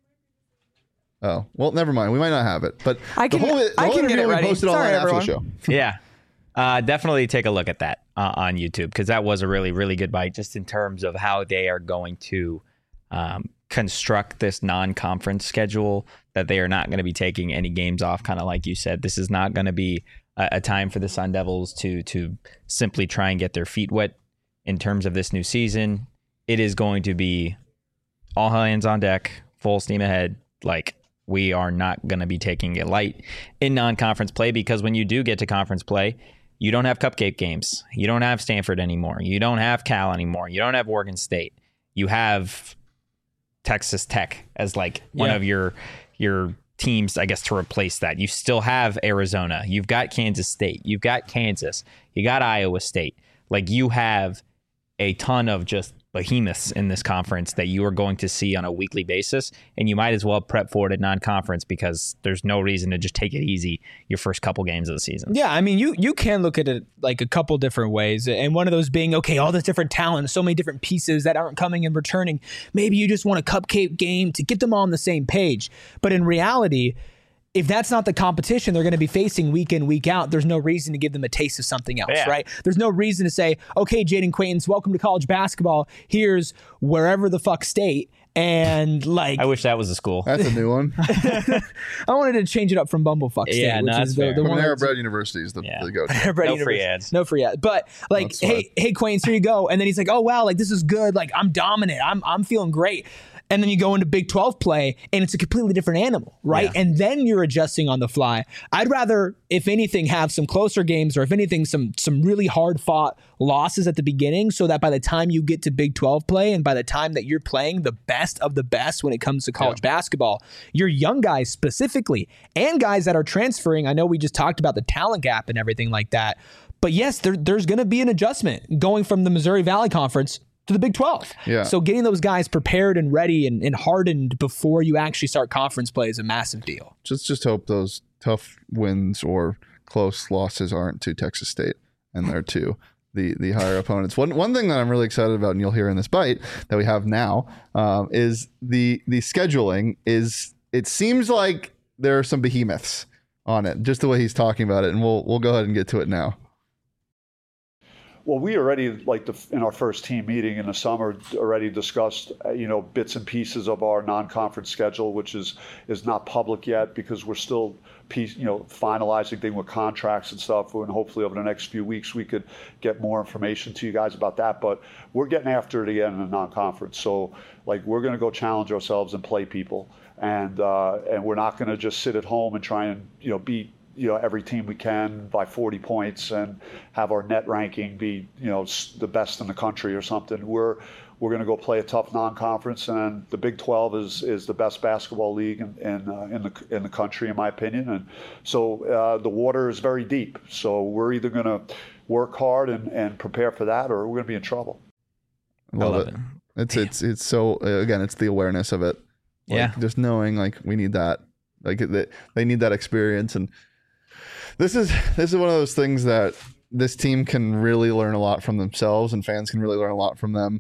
Oh, well, never mind. We might not have it, but I can- the whole, the I whole can get interview it we ready. posted Sorry, online after the everyone. show. Yeah. Uh, definitely take a look at that uh, on YouTube because that was a really, really good bite just in terms of how they are going to um, construct this non-conference schedule, that they are not going to be taking any games off, kind of like you said. This is not going to be a, a time for the Sun Devils to to simply try and get their feet wet in terms of this new season. It is going to be all hands on deck, full steam ahead. Like, we are not going to be taking it light in non-conference play because when you do get to conference play, you don't have cupcake games. You don't have Stanford anymore. You don't have Cal anymore. You don't have Oregon State. You have Texas Tech as like one Yeah. of your your teams, I guess, to replace that. You still have Arizona. You've got Kansas State. You've got Kansas. You got Iowa State. Like, you have a ton of just behemoths in this conference that you are going to see on a weekly basis, and you might as well prep for it at non-conference because there's no reason to just take it easy your first couple games of the season. Yeah, I mean, you you can look at it like a couple different ways, and one of those being, okay, all this different talent, so many different pieces that aren't coming and returning. Maybe you just want a cupcake game to get them all on the same page. But in reality, if that's not the competition they're going to be facing week in, week out, there's no reason to give them a taste of something else, Yeah. right? There's no reason to say, okay, Jaden Quaintance, welcome to college basketball. Here's wherever the fuck state. And like, I wish that was a school. That's a new one. I wanted to change it up from Bumblefuck State, Yeah, no, which that's is the, fair. the one Panera that's- Bread University is the, Yeah. the go-to. Bread No free University. ads. No free ads. But like, That's hey, hey, Quaintance, here you go. And then he's like, oh wow, like this is good. Like I'm dominant. I'm I'm feeling great. And then you go into Big twelve play, and it's a completely different animal, right? Yeah. And then you're adjusting on the fly. I'd rather, if anything, have some closer games, or if anything, some some really hard fought losses at the beginning, so that by the time you get to Big twelve play, and by the time that you're playing the best of the best when it comes to college basketball, your young guys specifically, and guys that are transferring. I know we just talked about the talent gap and everything like that, but yes, there, there's going to be an adjustment going from the Missouri Valley Conference to the Big twelve. Yeah. So getting those guys prepared and ready and, and hardened before you actually start conference play is a massive deal. Just just hope those tough wins or close losses aren't to Texas State and they're to the the higher opponents. One one thing that I'm really excited about, and you'll hear in this bite that we have now, um, is the the scheduling. Is it seems like there are some behemoths on it, just the way he's talking about it, and we'll we'll go ahead and get to it now. Well, we already, like the, in our first team meeting in the summer, already discussed, uh, you know, bits and pieces of our non-conference schedule, which is is not public yet because we're still, piece, you know, finalizing things with contracts and stuff. And hopefully over the next few weeks we could get more information to you guys about that. But we're getting after it again in the non-conference. So, like, we're going to go challenge ourselves and play people, and uh, and we're not going to just sit at home and try and, you know, beat, you know, every team we can by forty points and have our net ranking be, you know, the best in the country or something. We're we're going to go play a tough non-conference, and the Big twelve is is the best basketball league in in, uh, in the in the country, in my opinion. And so uh, the water is very deep. So we're either going to work hard and, and prepare for that, or we're going to be in trouble. I love, love it. it. It's it's it's so uh, again, it's the awareness of it. Like, Yeah. just knowing like we need that, like that they need that experience. And this is this is one of those things that this team can really learn a lot from themselves, and fans can really learn a lot from them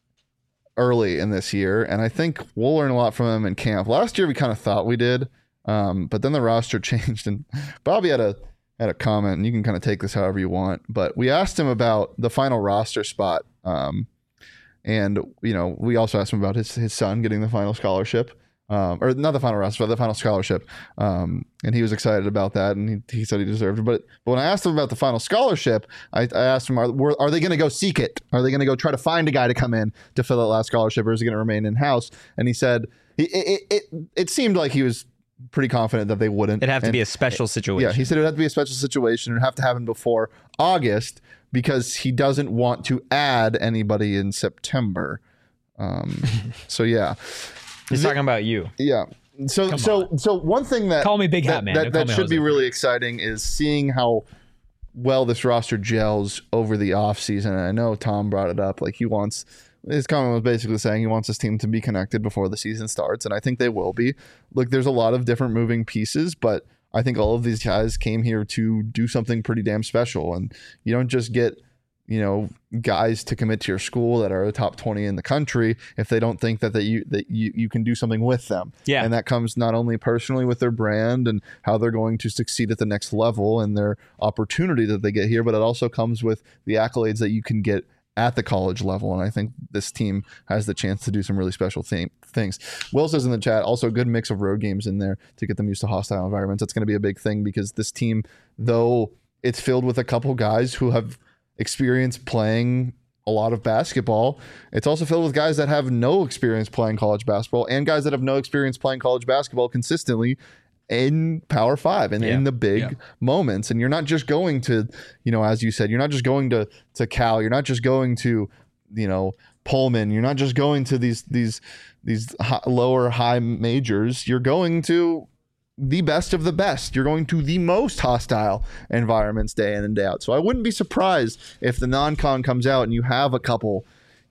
early in this year. And I think we'll learn a lot from them in camp. Last year we kind of thought we did, um, but then the roster changed, and Bobby had a had a comment, and you can kind of take this however you want. But we asked him about the final roster spot, um, and you know we also asked him about his his son getting the final scholarship. Um, or not the final roster, but the final scholarship. Um, and he was excited about that, and he, he said he deserved it. But, but when I asked him about the final scholarship, I, I asked him, are, were, are they going to go seek it? Are they going to go try to find a guy to come in to fill that last scholarship, or is he going to remain in-house? And he said, he, it, it, it, it seemed like he was pretty confident that they wouldn't. It'd have to And- be a special situation. yeah, he said it would have to be a special situation. It would have to happen before August because he doesn't want to add anybody in September. Um, so, yeah. He's talking about you. Yeah. So so so one thing that Call me Big Hat that, Man. that, Don't call that me should be Jose. really exciting is seeing how well this roster gels over the offseason. And I know Tom brought it up. Like he wants his comment was basically saying he wants his team to be connected before the season starts, and I think they will be. Look, there's a lot of different moving pieces, but I think all of these guys came here to do something pretty damn special, and you don't just get, you know, guys to commit to your school that are a top twenty in the country if they don't think that, that you that you, you can do something with them. Yeah. And that comes not only personally with their brand and how they're going to succeed at the next level and their opportunity that they get here, but it also comes with the accolades that you can get at the college level. And I think this team has the chance to do some really special thing, things. Will says in the chat, also a good mix of road games in there to get them used to hostile environments. That's going to be a big thing because this team, though it's filled with a couple guys who have experience playing a lot of basketball, it's also filled with guys that have no experience playing college basketball and guys that have no experience playing college basketball consistently in Power Five and Yeah. in the big Yeah. moments. And you're not just going to, you know, as you said, you're not just going to to Cal, you're not just going to, you know, Pullman, you're not just going to these these these high, lower high majors, you're going to the best of the best. You're going to the most hostile environments day in and day out. So I wouldn't be surprised if the non-con comes out and you have a couple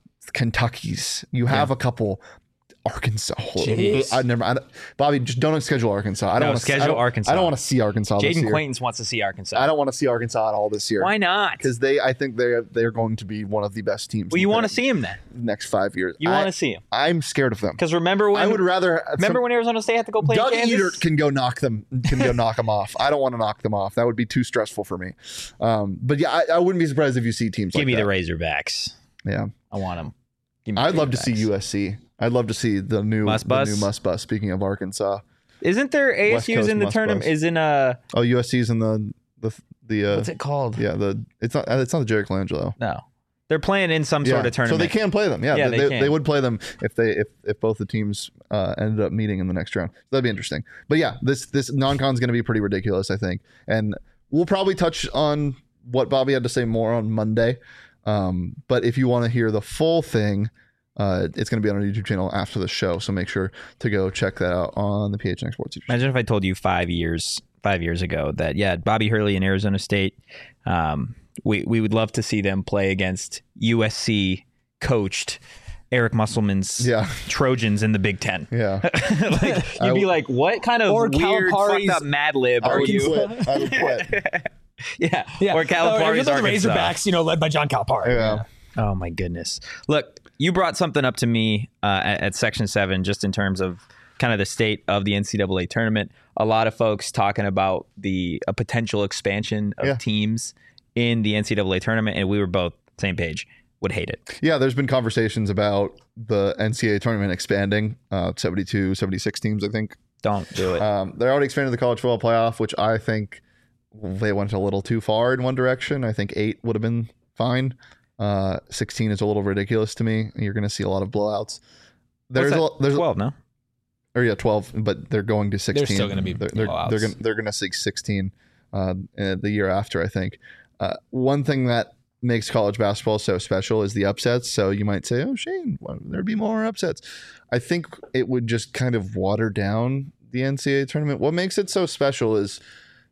Kentuckys, you have Yeah. a couple Arkansas. Jeez. I never, I don't- Bobby, just don't schedule Arkansas. I don't No, want to schedule I don't, Arkansas. I don't want to see Arkansas this Jaden year. Quaintance wants to see Arkansas. I don't want to see Arkansas at all this year. Why not? Because they, I think they're they're going to be one of the best teams. Well, in you the want to see him then. next five years. You I- want to see him I'm scared of them. because remember when I would rather remember some- when Arizona State had to go play Doug in Kansas? Eater can go knock them, can go knock them off. I don't want to knock them off. That would be too stressful for me. Um, but yeah, I, I wouldn't be surprised if you see teams Give like me that. the Razorbacks. Yeah, I want them. Give me I'd the love to see Razorbacks. U S C. I'd love to see the new Must the bus? new must bus. Speaking of Arkansas, Isn't there A West S U's Coast in the must tournament? bus. Is in a oh U S C's in the the the uh, what's it called? yeah the it's not it's not the Jerry Colangelo. No, they're playing in some Yeah. sort of tournament. So they can play them. Yeah, Yeah, they, they they, can. they would play them if they if, if both the teams uh, ended up meeting in the next round. So that'd be interesting. But yeah, this this non-con is going to be pretty ridiculous, I think, and we'll probably touch on what Bobby had to say more on Monday. Um, but if you want to hear the full thing, uh, it's going to be on our YouTube channel after the show. So make sure to go check that out on the P H N X Sports YouTube channel. Imagine if I told you five years five years ago that yeah, Bobby Hurley and Arizona State, um, we we would love to see them play against U S C coached Eric Musselman's Yeah. Trojans in the Big Ten. Yeah. Like I you'd be w- like, what kind of Or weird Calipari's fucked up Mad Lib I are would you? quit. I would quit. yeah. Yeah. Or Oh, Calipari's the Arkansas. Razorbacks, you know, led by John Calipari. Yeah. Oh my goodness. Look, you brought something up to me uh, at, at Section seven just in terms of kind of the state of the N C double A tournament. A lot of folks talking about the a potential expansion of Yeah. teams in the N C double A tournament, and we were both same page. Would hate it. Yeah, there's been conversations about the N C double A tournament expanding, uh, seventy-two, seventy-six teams, I think. Don't do it. Um, they already expanded the college football playoff, which I think they went a little too far in one direction. I think eight would have been fine. Uh, sixteen is a little ridiculous to me. You're going to see a lot of blowouts. There's What's a, that? there's twelve, no? or yeah, twelve, but they're going to sixteen. still gonna be they're they're, blowouts. they're going they're going to see sixteen uh, uh, the year after. I think uh, one thing that makes college basketball so special is the upsets. So you might say, "Oh, Shane, why would there be more upsets?" I think it would just kind of water down the N C double A tournament. What makes it so special is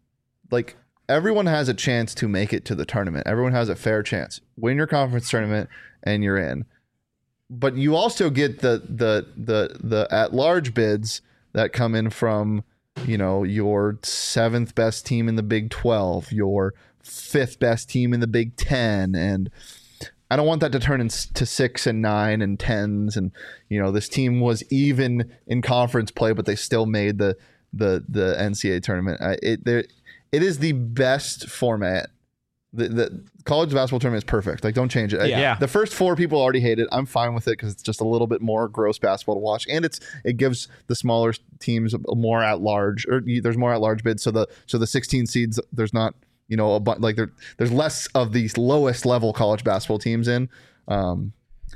like everyone has a chance to make it to the tournament. Everyone has a fair chance. Win your conference tournament and you're in. But you also get the the the the at large bids that come in from, you know, your seventh best team in the Big twelve, your fifth best team in the Big ten, and I don't want that to turn into six and nine and tens. And you know, this team was even in conference play, but they still made the the the N C double A tournament. I, it there, it is the best format. The, the college basketball tournament is perfect. Like, don't change it. Yeah. Yeah. The first four people already hate it. I'm fine with it because it's just a little bit more gross basketball to watch, and it's it gives the smaller teams more at large, or you- there's more at large bids. So the so the sixteen seeds, there's not, you know, a bu- like there there's less of these lowest level college basketball teams in. Um,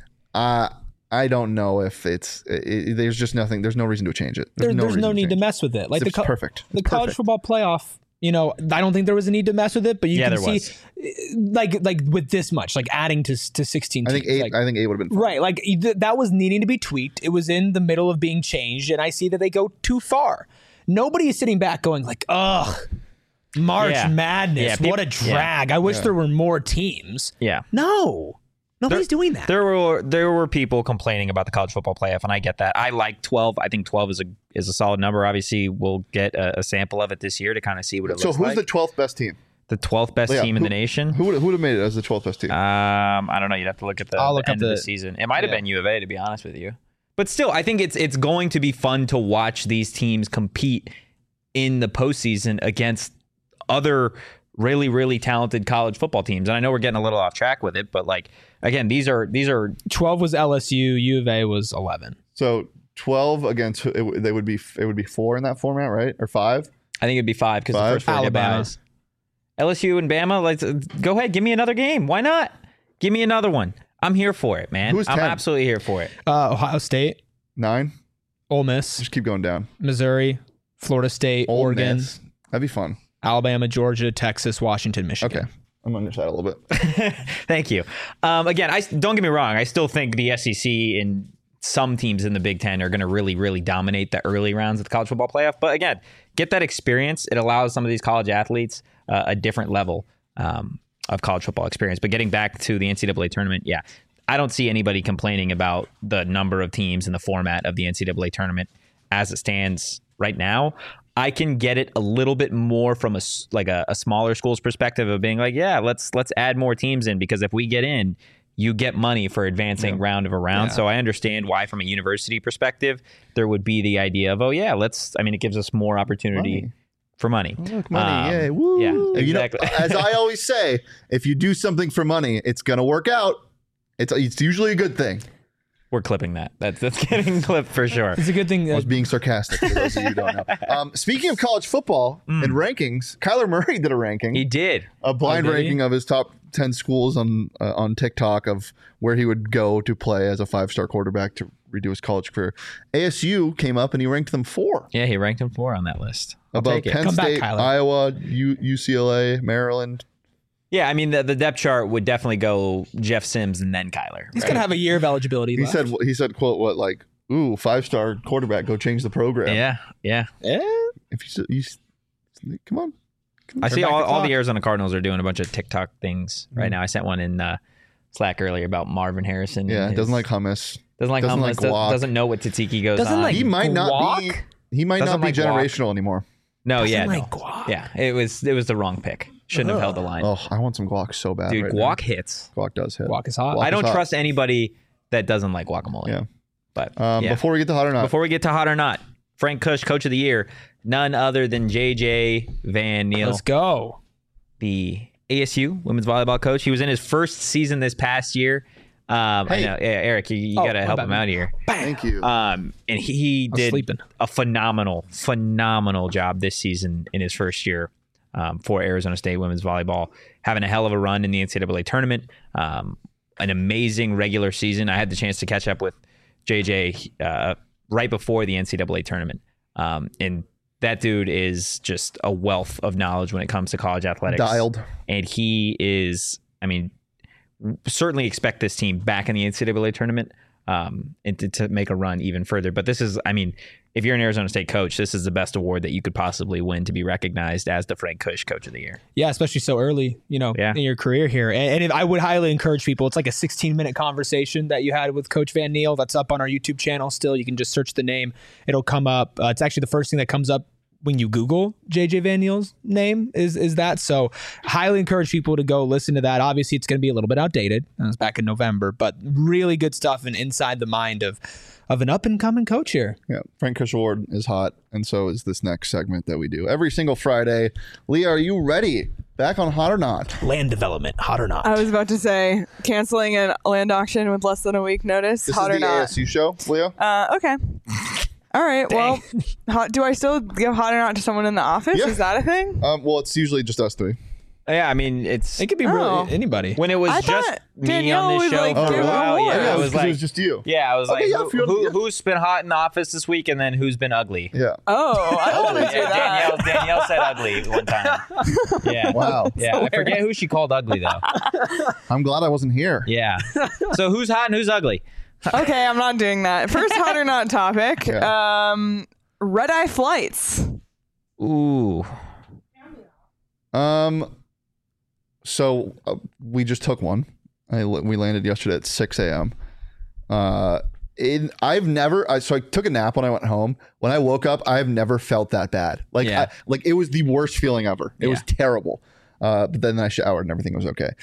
I I don't know if it's it, it- there's just nothing. There's no reason to change it. There, there's reason no need to change it. mess with it. Like the It's co- perfect. the It's college perfect. football playoff. You know, I don't think there was a need to mess with it, but you Yeah, can there see, like, like with this much, like adding to to sixteen. I think teams, eight. like- I think eight would have been fine. Right, like th- that was needing to be tweaked. It was in the middle of being changed, and I see that they go too far. Nobody is sitting back going like, "Ugh, March Yeah. Madness, Yeah, what a peop- yeah. drag! I wish there were more teams." Yeah. No, Nobody's doing that. There were there were people complaining about the college football playoff, and I get that. I like twelve. I think twelve is a is a solid number. Obviously, we'll get a, a sample of it this year to kind of see what it So looks who's like. the twelfth best team? The twelfth best Yeah, team in who- the nation. Who would who would have made it as the twelfth best team? Um, I don't know. You'd have to look at the, I'll the look up end of the the- season. It might have yeah. been U of A, to be honest with you. But still, I think it's it's going to be fun to watch these teams compete in the postseason against other really really talented college football teams. And I know we're getting a little off track with it, but like again, these are these are twelve was L S U. U of A was eleven. So twelve against it, w- they would be it would be four in that format, right? Or five? I think it'd be five because the Five? first four get Alabama. buys. L S U and Bama, let's go ahead, give me another game. Why not? Give me another one. I'm here for it, man. Who's I'm ten? absolutely here for it. Uh, Ohio State, Nine? Ole Miss, Just keep going down. Missouri, Florida State, Ole Oregon, Miss. That'd be fun. Alabama, Georgia, Texas, Washington, Michigan. Okay. I'm on your side a little bit. Thank you. Um, again, I don't get me wrong. I still think the S E C and some teams in the Big Ten are going to really, really dominate the early rounds of the college football playoff. But again, get that experience. It allows some of these college athletes uh, a different level um, of college football experience. But getting back to the N C double A tournament, yeah, I don't see anybody complaining about the number of teams and the format of the N C double A tournament as it stands right now. I can get it a little bit more from a s- like a, a smaller school's perspective of being like, yeah, let's let's add more teams in, because if we get in, you get money for advancing round of a round. Yeah. So I understand why, from a university perspective, there would be the idea of, oh yeah, let's. I mean, it gives us more opportunity Money. for money. Look, money, Um, yay, woo. Yeah, And you know, exactly. as I always say, if you do something for money, it's gonna work out. It's it's usually a good thing. We're clipping that. That's that's getting clipped for sure. It's a good thing. I That, was being sarcastic for those of you who don't know. Um, speaking of college football and rankings, Kyler Murray did a ranking, He did. a blind Oh, did he? ranking of his top ten schools on uh, on TikTok of where he would go to play as a five star quarterback to redo his college career. A S U came up and he ranked them four. Yeah, he ranked him four on that list. I'll Above take it. Penn Come back, State, Kyler. Iowa, U- UCLA, Maryland. Yeah, I mean the, the depth chart would definitely go Jeff Sims and then Kyler. he's right? gonna have a year of eligibility. He left. said he said quote what like ooh five star quarterback, go change the program. Yeah, yeah. Eh? If you, s- you s- come on. I see back all, the all clock. the Arizona Cardinals are doing a bunch of TikTok things right now. I sent one in uh, Slack earlier about Marvin Harrison. Yeah, and he doesn't his- like hummus. doesn't like doesn't hummus, like does- guac. doesn't know what tzatziki goes Doesn't on. like He might not be. guac? He might Doesn't not be like guac. generational anymore. no, Doesn't yeah, like no. guac. yeah. It was it was the wrong pick. Shouldn't have held the line. Oh, I want some guac so bad. Dude, right guac now. hits. Guac does hit. Guac is hot. Guac I don't is hot. trust anybody that doesn't like guacamole. Yeah. But Um, yeah. Before we get to hot or not, Before we get to hot or not, Frank Kush, Coach of the Year, none other than J J Van Neal, Let's go. the A S U women's volleyball coach. He was in his first season this past year. Um, Hey. I know, yeah, Eric, you, you Oh, got to my help bad, him man. out here. thank you. Um, and he, he was did sleeping. a phenomenal, phenomenal job this season in his first year um, for Arizona State women's volleyball, having a hell of a run in the N C double A tournament. Um, an amazing regular season. I had the chance to catch up with J J uh, right before the N C double A tournament, um, and that dude is just a wealth of knowledge when it comes to college athletics. Dialed. And he is, I mean, certainly expect this team back in the N C double A tournament um, and to, to make a run even further. But this is, I mean, if you're an Arizona State coach, this is the best award that you could possibly win to be recognized as the Frank Kush Coach of the Year. Yeah, especially so early, you know, Yeah. in your career here. And, and if, I would highly encourage people. It's like a sixteen minute conversation that you had with Coach Van Neal. That's up on our YouTube channel still. You can just search the name. It'll come up. Uh, it's actually the first thing that comes up when you Google J J Van Neal's name is is that. So highly encourage people to go listen to that. Obviously, it's going to be a little bit outdated. It was back in November, but really good stuff and inside the mind of of an up and coming coach here. Yeah, Frank Kush Award is hot, and so is this next segment that we do every single Friday. Leah, are you ready? Back on Hot or Not? Land development, hot or not? I was about to say canceling a land auction with less than a week notice. This hot is or the not? A S U show, Leah. Uh, okay. All right. Well, hot, do I still give hot or not to someone in the office? Yeah. Is that a thing? Um, well, it's usually just us three. Yeah, I mean, it's It could be Oh. really anybody. when it was I just thought me Danielle on this would, show like, for give a while. awards. Yeah, yeah, I it was was, 'cause like, it was just you. yeah, I was Okay, like, yeah, who, if you're- who, yeah. who's been hot in the office this week, and then who's been ugly? Yeah. Oh, I don't want to do Yeah, that. Danielle, Danielle said ugly one time. Yeah. Wow. Yeah, I forget who she called ugly though. I'm glad I wasn't here. Yeah. So who's hot and who's ugly? Okay, I'm not doing that. First hot or not topic. Yeah. Um, red eye flights. Ooh. Um, so uh, we just took one. I we landed yesterday at six a.m. Uh, in, I've never. I, so I took a nap when I went home. When I woke up, I've never felt that bad. Like, Yeah. I, like it was the worst feeling ever. It Yeah. was terrible. Uh, but then I showered and everything was okay.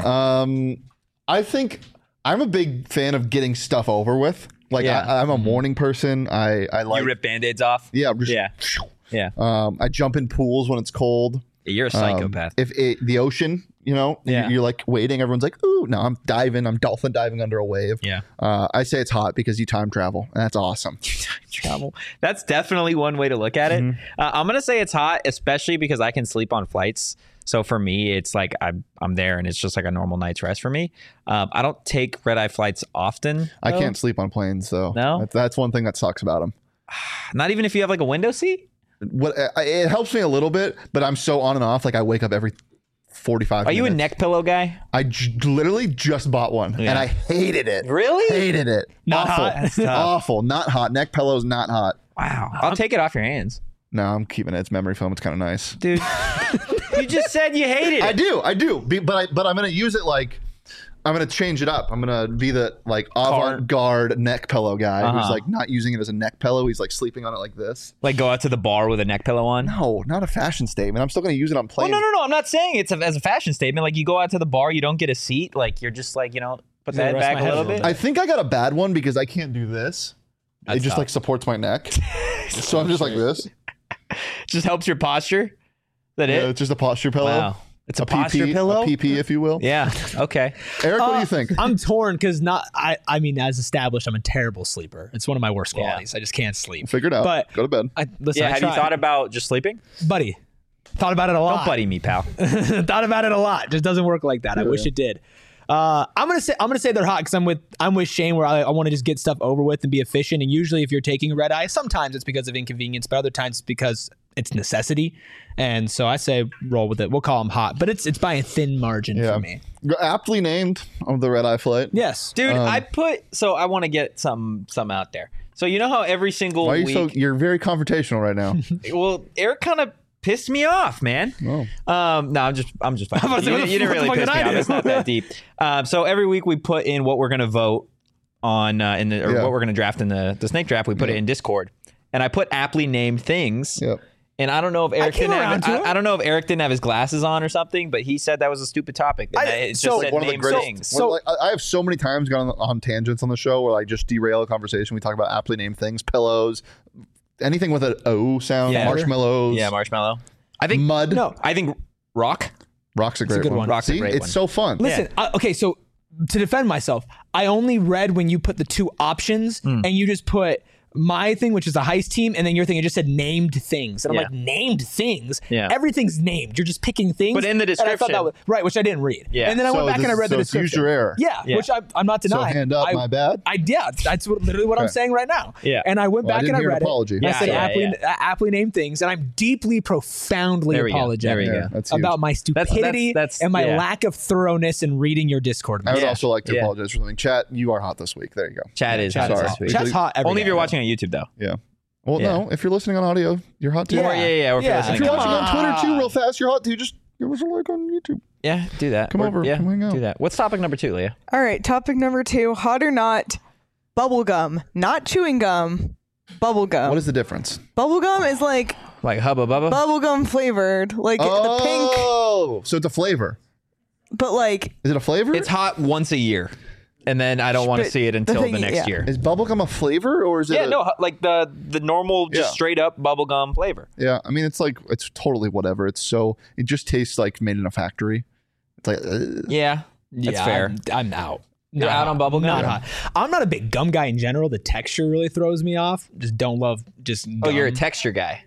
Um, I think I'm a big fan of getting stuff over with. Like, Yeah. I, I'm a morning person. I I like. You rip band-aids off? Yeah. Just, Yeah. Yeah. Um, I jump in pools when it's cold. You're a Um, psychopath. if it, the ocean, you know, you- Yeah. you're like waiting. Everyone's like, "Ooh, no, I'm diving. I'm dolphin diving under a wave." Yeah. Uh, I say it's hot because you time travel, and that's awesome. Travel. That's definitely one way to look at it. Mm-hmm. Uh, I'm gonna say it's hot, especially because I can sleep on flights. So for me, it's like I'm I'm there, and it's just like a normal night's rest for me. Um, I don't take red eye flights often. I though. can't sleep on planes, though. No? that's, that's one thing that sucks about them. Not even if you have like a window seat. What I- it helps me a little bit, but I'm so on and off. Like I wake up every forty-five. Are you a minutes. neck pillow guy? I j- literally just bought one, Yeah. and I hated it. Really? Hated it. Not Awful. hot? That's tough. Awful. Not hot. Neck pillows not hot. Wow. I'll take it off your hands, No, I'm keeping it. It's memory foam. It's kind of nice. dude. You just said you hated I it. do, I do, Be- but I but I'm gonna use it like I'm gonna change it up. I'm gonna be the like avant-garde neck pillow guy who's Uh-huh. like not using it as a neck pillow. He's like sleeping on it like this. Like go out to the bar with a neck pillow on. No, not a fashion statement. I'm still gonna use it on Oh planes. no no no! I'm not saying it's a, as a fashion statement. Like you go out to the bar, you don't get a seat. Like you're just like you know put the Yeah, head rest back my a head little a little bit. I think I got a bad one because I can't do this. That's it just tough. like supports my neck, so I'm just like this. Just helps your posture. Is that Yeah, it? it's just a posture pillow. Wow. It's a, A posture P P, pillow. a P P, if you will. Yeah. Okay. Eric, what do Uh, you think? I'm torn because not. I. I mean, as established, I'm a terrible sleeper. It's one of my worst Yeah. qualities. I just can't sleep. Figure it out. but- Go to bed. I listen. Yeah. I Have you try- thought about just sleeping? buddy? Thought about it a lot. Don't buddy me, pal. Thought about it a lot. Just doesn't work like that. I wish it did. Uh, I'm gonna say I'm gonna say they're hot because I'm with I'm with Shane where I, I want to just get stuff over with and be efficient. And usually, if you're taking a red eye, sometimes it's because of inconvenience, but other times it's because it's necessity. And so I say roll with it. We'll call them hot, but it's it's by a thin margin Yeah. for me. Aptly named on the red eye flight. Yes, Dude, Um, I put so I want to get some some out there. So you know how every single Why are you week, so? You're very confrontational right now. well, Eric kind of pissed me off, man. Oh. Um, no, I'm just I'm just. about to say, You, what the- you didn't what the really fuck piss did me I off. do? It's not that deep. Um, so every week we put in what we're gonna vote on uh, in the or Yeah. what we're gonna draft in the the snake draft. We put it in Discord, and I put aptly named things. Yep. And I don't know if Eric came didn't have around to I, it. I don't know if Eric didn't have his glasses on or something, but he said that was a stupid topic. And I- it just so- said One of the name greatest. things. one of, like, I I have so many times gone on, on tangents on the show where I just derail a conversation. We talk about aptly named things, pillows, anything with an O sound, Yeah. marshmallows, Yeah, marshmallow. I think mud. No. I think rock. Rock's a great good one. one. Rock's a See, great it's one. so fun. Listen, I, okay, so to defend myself, I only read when you put the two options Hmm. and you just put my thing, which is a heist team, and then your thing, it just said named things. And I'm Yeah. like, named things? Yeah. Everything's named. You're just picking things. But in the And I thought description- that was, right, which I didn't read. Yeah. And then I So went back and I this- read so the it's description. use your error. Yeah, Yeah. which I, I'm not So denying. hand up, I, my bad. I yeah, that's what, literally what I'm Okay. saying right now. Yeah. And I went Well, I back didn't and I hear an read apology. it. And I Yeah, said yeah, aptly, yeah. uh, aptly named things, and I'm deeply, profoundly There we go. apologetic There we Yeah, go. that's huge. about my that's- stupidity that's- and my yeah. lack of thoroughness in reading your Discord. I would Yeah. also like to Yeah. apologize for something. Chat, you are hot this week. There you go. Chad is Chat hot is Sorry. this hot. week. Chat's hot every Only if day. you're watching on YouTube though. Yeah. Well, Yeah. no. If you're listening on audio, you're hot too. Or, yeah, yeah, yeah. Or if Yeah. you're If listening you're on- watching on Twitter Ah. too, real fast, you're hot too. Just give us a like on YouTube. Yeah, do that. Come Or- over, Yeah, come hang out. do that. What's topic number two, Leah? All right, topic number two: hot or not, bubble gum, not chewing gum, bubble gum. What is the difference? bubble gum is like Like Hubba Bubba? bubble gum flavored, like the pink, Oh, so it's a flavor. but like Is it a flavor? It's hot once a year, and then I don't want to But see it the until the, thing- next yeah. year. Is bubblegum a flavor or is it? Yeah, a- no, hu- like the the normal, just Yeah. straight up bubblegum flavor. Yeah, I mean, it's like it's totally whatever. It's so it just tastes like made in a factory. It's like uh, Yeah, that's yeah, fair. I'm, I'm out. You're Not out hot. on bubble gum? Not hot. I'm not a big gum guy in general. The texture really throws me off. Just don't love just. Oh, you're a gum. texture guy.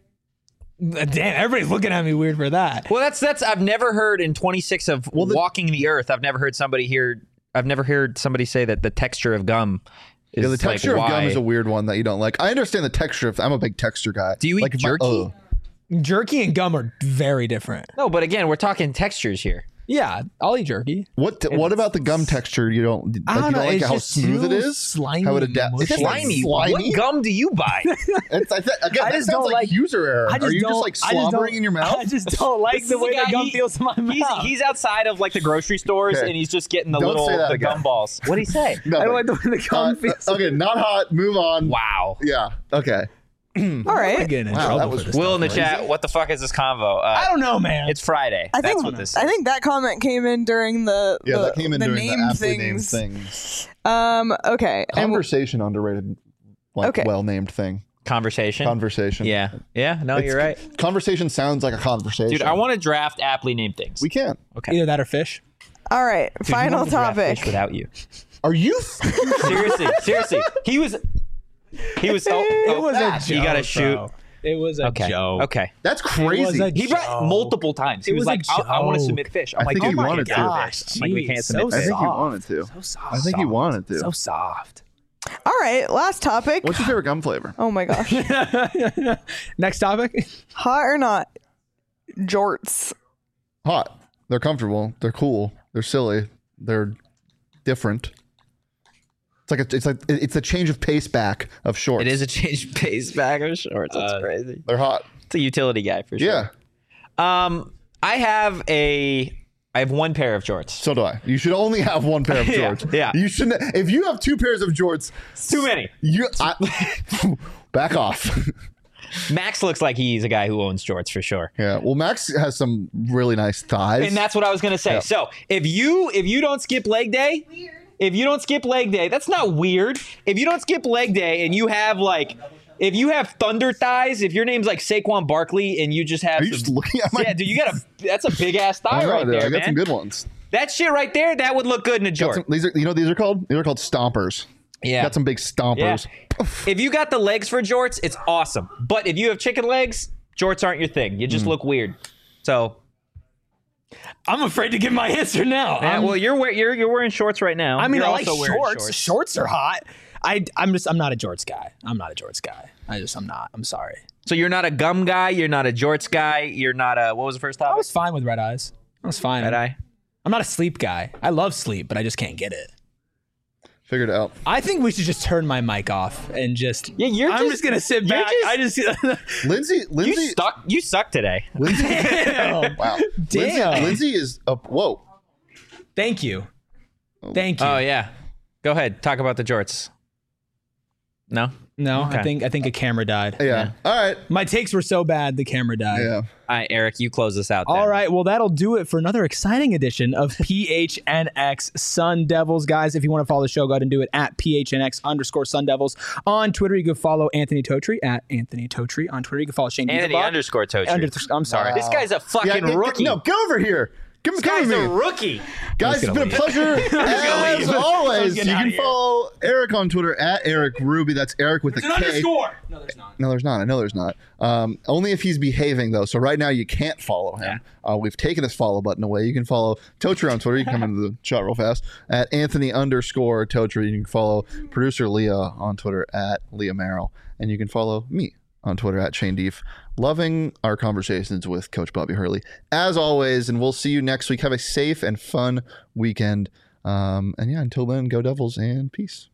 Damn, everybody's looking at me weird for that. Well, that's that's I've never heard in twenty-six of Well, the- walking the earth. I've never heard somebody here. I've never heard somebody say that the texture of gum is yeah, the like, texture of why. gum is a weird one that you don't like. I understand the texture of. I'm a big texture guy. Do you eat like if I- jerky? ugh. Jerky and gum are very different. No, but again, we're talking textures here. Yeah, I'll eat jerky. What What about the gum texture? You don't. Like, I don't you know, don't like it's how just smooth it too is. slimy How it and adapts. mushy. It's not Slimy. slimy. What gum do you buy? It's, I th- again, I that just sounds don't like, like- user error. I just Are you don't, just like I just slobbering don't- in your mouth? I just don't like This the is way the the guy, gum he- feels in my He's, mouth. he's outside of like the grocery stores Okay. and he's just getting the Don't little say that the again. gum balls. What would he say? I don't like the way the gum Uh, feels. okay, not hot. Move on. Wow. Yeah. Okay. All I'm right. getting in Wow, trouble that for was- this Will in the stuff, chat, right? what the fuck is this convo? Uh, I don't know, man. It's Friday. I That's think what this I is. think that comment came in during the Yeah, the, that came in the during name the aptly named things. things. Um. Okay. And w- Conversation underrated, like Okay. well named thing. Conversation. Conversation. yeah. Yeah. No, It's- you're right. Conversation sounds like a conversation. Dude, I want to draft aptly named things. We can't. Okay. Either that or fish. all right. Dude, you Final wanted to draft topic. fish without you. Are you? seriously, seriously. He was. He was. Oh, It oh, was a joke. You gotta shoot. bro. It was a Okay. joke. Okay. That's It was crazy. a He brought joke. multiple times. He It was, was a like, I, I want to joke. submit fish. I'm I like, think oh he my wanted to. gosh. I'm like, we Jeez, can't so submit I fish. think he soft. wanted to. So soft. I think he wanted to. So soft. All right. Last topic. What's your favorite gum flavor? Oh my gosh. Next topic. Hot or not? Jorts. Hot. They're comfortable. They're cool. They're silly. They're different. It's like a, it's like it's a change of pace back of shorts. It is a change of pace bag of shorts. That's Uh, crazy. They're hot. It's a utility guy for sure. Yeah. Um, I have a. I have one pair of jorts. So do I. You should only have one pair of Yeah, jorts. yeah. You shouldn't. If you have two pairs of jorts, Too many. you I, back off. Max looks like he's a guy who owns jorts for sure. Yeah. Well, Max has some really nice thighs. And that's what I was gonna say. Yeah. So if you if you don't skip leg day, if you don't skip leg day, that's not weird. If you don't skip leg day and you have like, if you have thunder thighs, if your name's like Saquon Barkley and you just have, Are you some, just looking at my? yeah, dude, you got a that's a big ass I thigh know, right dude. there, I got man. some good ones. That shit right there, that would look good in a Got jort. some, these are, you know, what these are called. These are called stompers. Yeah. Got some big Yeah. stompers. If you got the legs for jorts, it's awesome. But if you have chicken legs, jorts aren't your thing. You Mm. just look weird. So, I'm afraid to give my answer now. yeah, I'm- well, you're wear- you're you're wearing shorts right now. I mean, You're I like also wearing shorts. shorts. are hot. I, I'm just, I'm not a jorts guy. I'm not a jorts guy. I just, I'm not. I'm sorry. So you're not a gum guy. You're not a jorts guy. You're not a what was the first I topic? was fine with red eyes. I was fine. Red eye. I'm not a sleep guy. I love sleep, but I just can't get it. Figured it out. I think we should just turn my mic off and just. Yeah, you're I'm just- just, gonna sit you're back. just- I just. Lindsay. You Lindsay. suck. You suck today. Lindsay. Damn. Wow. Damn. Lindsay, Lindsay is up. Whoa. Thank you. Thank you. Oh yeah. Go ahead. Talk about the jorts. No. No, Okay. I think I think a camera died. Yeah. All right. My takes were so bad, the camera died. Yeah. All right, Eric. You close this out. Then. All right, well, that'll do it for another exciting edition of P H N X Sun Devils. Guys, if you want to follow the show, go ahead and do it at P H N X underscore Sun Devils. On Twitter, you can follow Anthony Totri at Anthony Totri. On Twitter, you can follow Shane Anthony Diefenbach. underscore Tochi. Under, I'm sorry. This guy's a fucking Yeah, get- rookie. No, get over here. Come, this come guy's with a me. rookie. Guys, it's gonna been a pleasure as leave. always. You getting outta can here. follow Eric on Twitter at Eric Ruby. That's Eric with a K. No, there's not. No, there's not. I know there's not. Um, only if he's behaving, though. So right now you can't follow him. Uh, we've taken his follow button away. You can follow Totri on Twitter. You can come into the chat real fast at Anthony underscore Totri. You can follow producer Leah on Twitter at Leah Merrill. And you can follow me on Twitter at Shane Deef. Loving our conversations with Coach Bobby Hurley, as always. And we'll see you next week. Have a safe and fun weekend. Um, and yeah, until then, go Devils and peace.